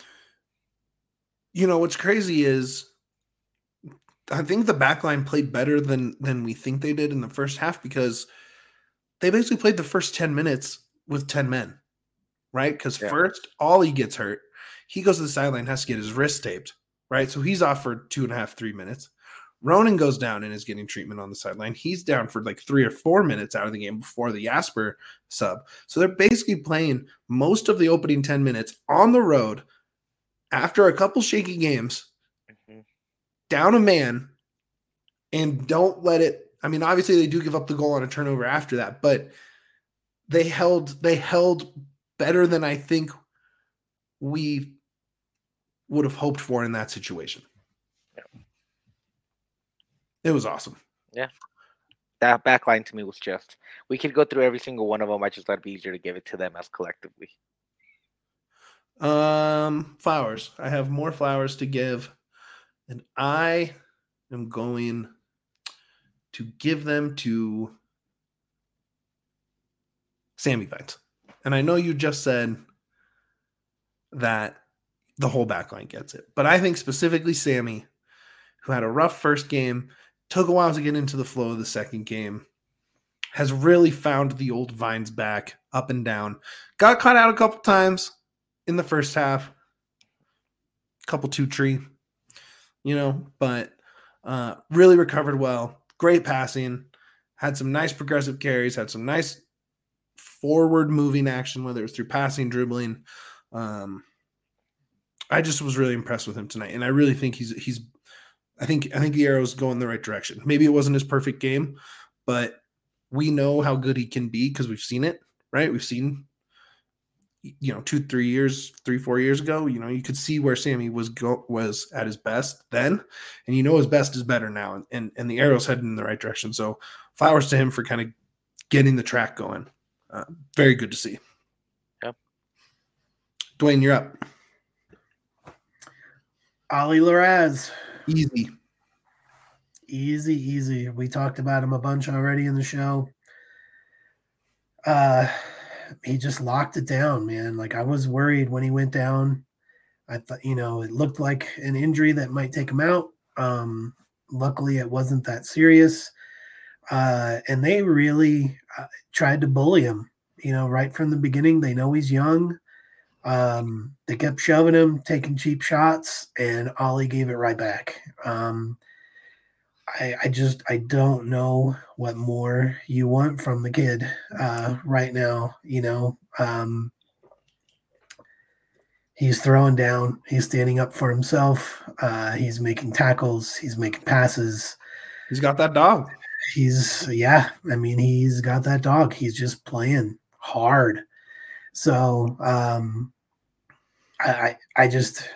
you know, what's crazy is I think the back line played better than than we think they did in the first half because they basically played the first ten minutes with ten men, right? Because yeah. first, Ollie gets hurt. He goes to the sideline, has to get his wrist taped, right? So he's off for two and a half, three minutes. Ronan goes down and is getting treatment on the sideline. He's down for like three or four minutes out of the game before the Jasper sub. So they're basically playing most of the opening ten minutes on the road after a couple shaky games, mm-hmm. down a man, and don't let it – I mean, obviously they do give up the goal on a turnover after that, but they held they held better than I think we would have hoped for in that situation. Yeah. It was awesome. Yeah. That back line to me was just – we could go through every single one of them. I just thought it'd be easier to give it to them as collectively. Um, flowers. I have more flowers to give, and I am going to give them to Sammy Vines. And I know you just said that the whole backline gets it, but I think specifically Sammy, who had a rough first game, took a while to get into the flow of the second game, has really found the old Vines back up and down. Got caught out a couple times in the first half, couple two tree, you know, but uh, really recovered well. Great passing, had some nice progressive carries, had some nice forward moving action, whether it's through passing, dribbling. Um, I just was really impressed with him tonight, and I really think he's he's. I think I think the Arrows go in the right direction. Maybe it wasn't his perfect game, but we know how good he can be because we've seen it, right? We've seen, you know, two, three years, three, four years ago. You know, you could see where Sammy was go was at his best then, and you know his best is better now, and and, and the Arrows heading in the right direction. So flowers to him for kind of getting the track going. Uh, very good to see. Yep. Dwayne, you're up. Ollie Larraz. Easy. Easy, easy. We talked about him a bunch already in the show. Uh, he just locked it down, man. Like, I was worried when he went down. I thought, you know, it looked like an injury that might take him out. Um, luckily, it wasn't that serious. Uh, and they really uh, tried to bully him, you know, right from the beginning. They know he's young. Um, they kept shoving him, taking cheap shots, and Ollie gave it right back. Um, I, I just I don't know what more you want from the kid uh, right now. You know, um, he's throwing down, he's standing up for himself. Uh, he's making tackles, he's making passes. He's got that dog. He's yeah. I mean, he's got that dog. He's just playing hard. So um, I, I I just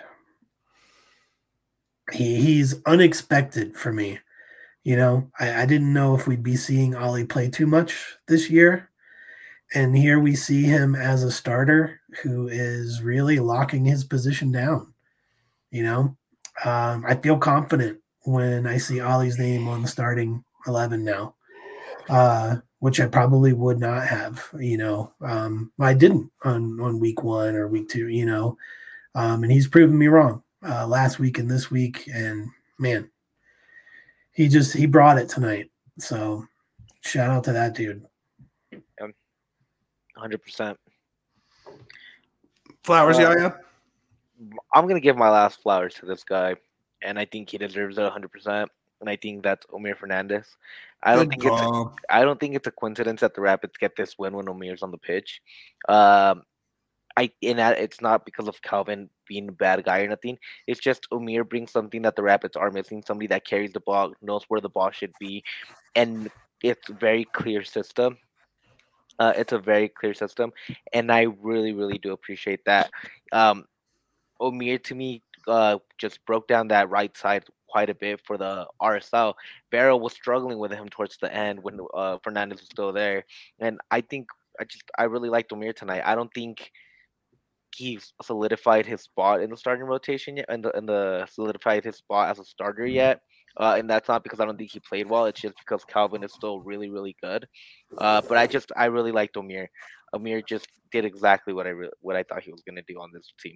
he he's unexpected for me. You know, I, I didn't know if we'd be seeing Ollie play too much this year. And here we see him as a starter who is really locking his position down. You know, um, I feel confident when I see Ollie's name on the starting eleven now, uh, which I probably would not have, you know. Um, I didn't on, on week one or week two, you know, um, and he's proven me wrong uh, last week and this week. And, man, He just he brought it tonight. So shout out to that dude. one hundred percent. Flowers, Uh, Yaya? I'm gonna give my last flowers to this guy, and I think he deserves it one hundred percent. And I think that's Omir Fernandez. I don't Good think it's a, job. I don't think it's a coincidence that the Rapids get this win when Omir's on the pitch. Um, I and that it's not because of Calvin being a bad guy or nothing. It's just Omir brings something that the Rapids are missing. Somebody that carries the ball, knows where the ball should be, and it's a very clear system. Uh, it's a very clear system, and I really, really do appreciate that. Um, Omir to me uh, just broke down that right side quite a bit for the R S L. Barrow was struggling with him towards the end when uh, Fernandez was still there, and I think I just I really liked Omir tonight. I don't think he solidified his spot in the starting rotation yet, and the, and the solidified his spot as a starter yet. Uh, and that's not because I don't think he played well. It's just because Calvin is still really, really good. Uh, but I just I really liked Omir. Omir just did exactly what I re- what I thought he was going to do on this team.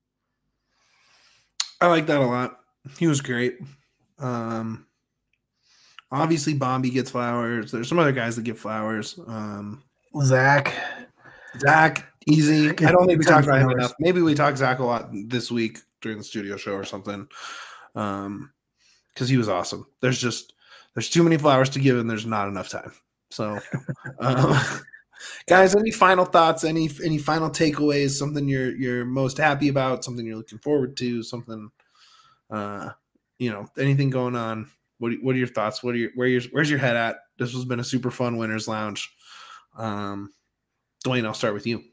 I like that a lot. He was great. Um, obviously, Bombi gets flowers. There's some other guys that get flowers. Um, Zach. Zach, easy. Zach I don't think we gets talked about him flowers. enough. Maybe we talked Zach a lot this week during the studio show or something. Um, because he was awesome. There's just there's too many flowers to give, and there's not enough time. So, um, guys, any final thoughts? Any any final takeaways? Something you're you're most happy about? Something you're looking forward to? Something, uh, you know, anything going on? What what are your thoughts? What are your where your where's your head at? This has been a super fun Winners Lounge. Um, Dwayne, I'll start with you.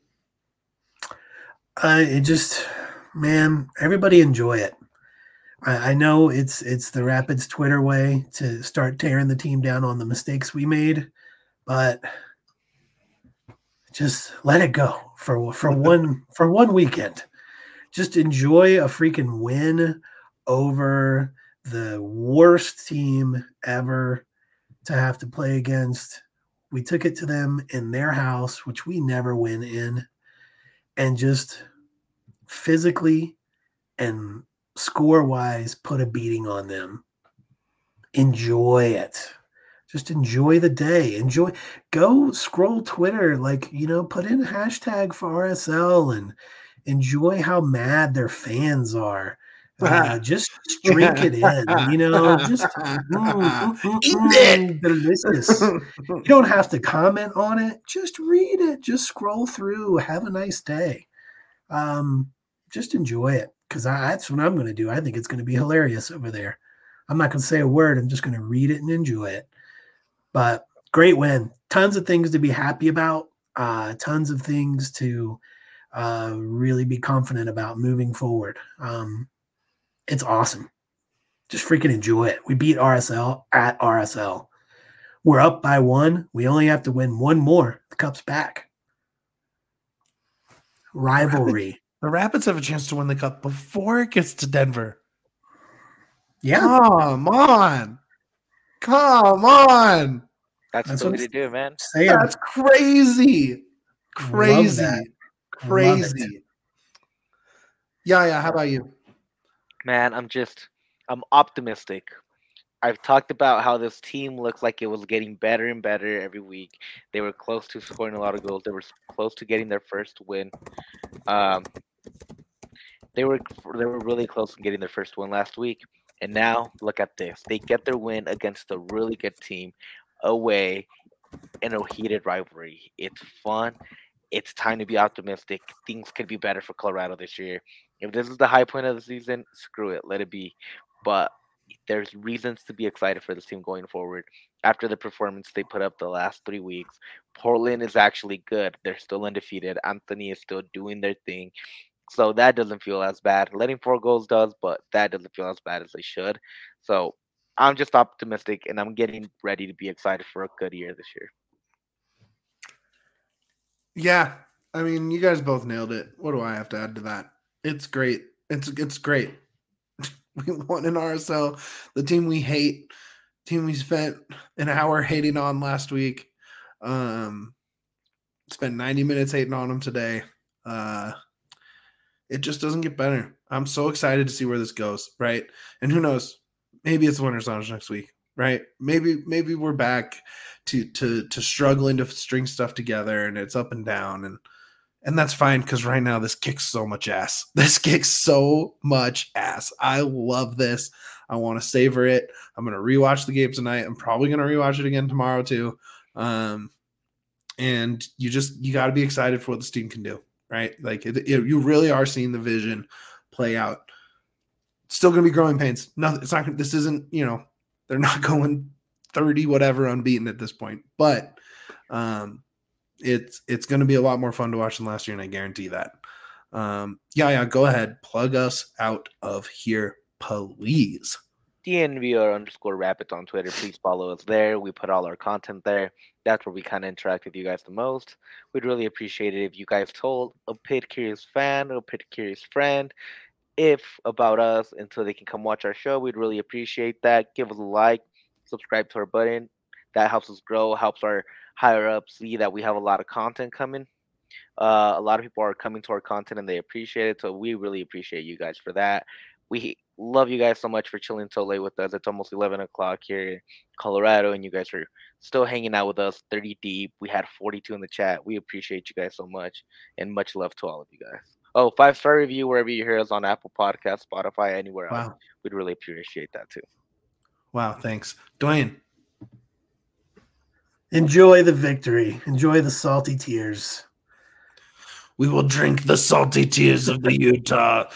Uh, it just, man, everybody enjoy it. I, I know it's it's the Rapids Twitter way to start tearing the team down on the mistakes we made, but just let it go for for one for one weekend. Just enjoy a freaking win over the worst team ever to have to play against. We took it to them in their house, which we never win in, and just physically and score-wise put a beating on them. Enjoy it. Just enjoy the day. Enjoy. Go scroll Twitter, like, you know, put in a hashtag for R S L and enjoy how mad their fans are. Uh, just, just drink it in, you know, just mm, mm, mm, Eat mm, it. delicious. You don't have to comment on it. Just read it. Just scroll through. Have a nice day. Um, just enjoy it because that's what I'm going to do. I think it's going to be hilarious over there. I'm not going to say a word. I'm just going to read it and enjoy it. But great win. Tons of things to be happy about. Uh, tons of things to uh, really be confident about moving forward. Um, it's awesome. Just freaking enjoy it. We beat R S L at R S L. We're up by one. We only have to win one more. The cup's back. Rivalry. The Rapids have a chance to win the cup before it gets to Denver. Yeah. Come on. Come on. That's, That's the way what to I'm do it, man. saying. That's crazy. Love Crazy. that. Love Crazy. Yeah, yeah. How about you? Man, I'm just, I'm optimistic. I've talked about how this team looks like it was getting better and better every week. They were close to scoring a lot of goals. They were close to getting their first win. Um, they were they were really close to getting their first win last week. And now look at this. They get their win against a really good team away in a heated rivalry. It's fun. It's time to be optimistic. Things could be better for Colorado this year. If this is the high point of the season, screw it. Let it be. But there's reasons to be excited for this team going forward. After the performance they put up the last three weeks, Portland is actually good. They're still undefeated. Anthony is still doing their thing. So that doesn't feel as bad. Letting four goals does, but that doesn't feel as bad as they should. So I'm just optimistic, and I'm getting ready to be excited for a good year this year. Yeah. I mean, you guys both nailed it. What do I have to add to that? It's great. It's it's great. We won in R S L, the team we hate, team we spent an hour hating on last week. Um, spent ninety minutes hating on them today. Uh, it just doesn't get better. I'm so excited to see where this goes, right? And who knows? Maybe it's Winter Lounge next week, right? Maybe maybe we're back to to to struggling to string stuff together, and it's up and down, and and that's fine because right now this kicks so much ass. This kicks so much ass. I love this. I want to savor it. I'm going to rewatch the game tonight. I'm probably going to rewatch it again tomorrow too. Um, and you just, you got to be excited for what this team can do, right? Like it, it, you really are seeing the vision play out. Still going to be growing pains. Nothing. It's not, this isn't, you know, they're not going thirty, whatever unbeaten at this point, but, um, It's it's going to be a lot more fun to watch than last year, and I guarantee that. Um, yeah, yeah, go ahead. Plug us out of here, please. D N V R underscore Rapids on Twitter. Please follow us there. We put all our content there. That's where we kind of interact with you guys the most. We'd really appreciate it if you guys told a Pit Curious fan or a Pit Curious friend if about us until they can come watch our show. We'd really appreciate that. Give us a like, subscribe to our button. That helps us grow, helps our higher up see that we have a lot of content coming. Uh, a lot of people are coming to our content and they appreciate it. So we really appreciate you guys for that. We love you guys so much for chilling so late with us. It's almost eleven o'clock here in Colorado, and you guys are still hanging out with us thirty deep. We had forty-two in the chat. We appreciate you guys so much, and much love to all of you guys. Oh, five-star review wherever you hear us on Apple Podcasts, Spotify, anywhere else. Wow. We'd really appreciate that too. Wow, thanks. Dwayne. Enjoy the victory. Enjoy the salty tears. We will drink the salty tears of the Utah.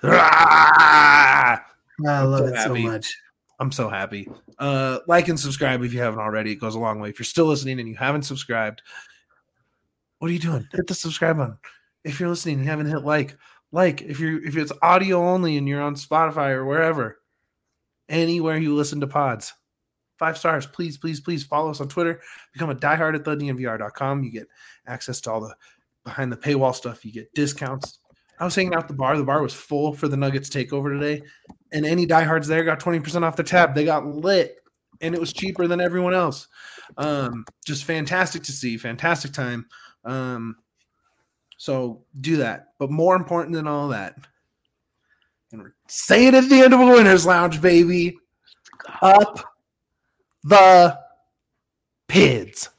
Ah! I love so it happy. so much. I'm so happy. Uh, like and subscribe if you haven't already. It goes a long way. If you're still listening and you haven't subscribed, what are you doing? Hit the subscribe button. If you're listening and you haven't hit like, like if you're if it's audio only and you're on Spotify or wherever, anywhere you listen to pods. Five stars, please, please, please follow us on Twitter. Become a diehard at the D N V R dot com. You get access to all the behind the paywall stuff. You get discounts. I was hanging out at the bar. The bar was full for the Nuggets takeover today, and any diehards there got twenty percent off their tab. They got lit, and it was cheaper than everyone else. Um, just fantastic to see. Fantastic time. Um, so do that. But more important than all that, and we're saying at the end of a Winner's Lounge, baby, up the Pids.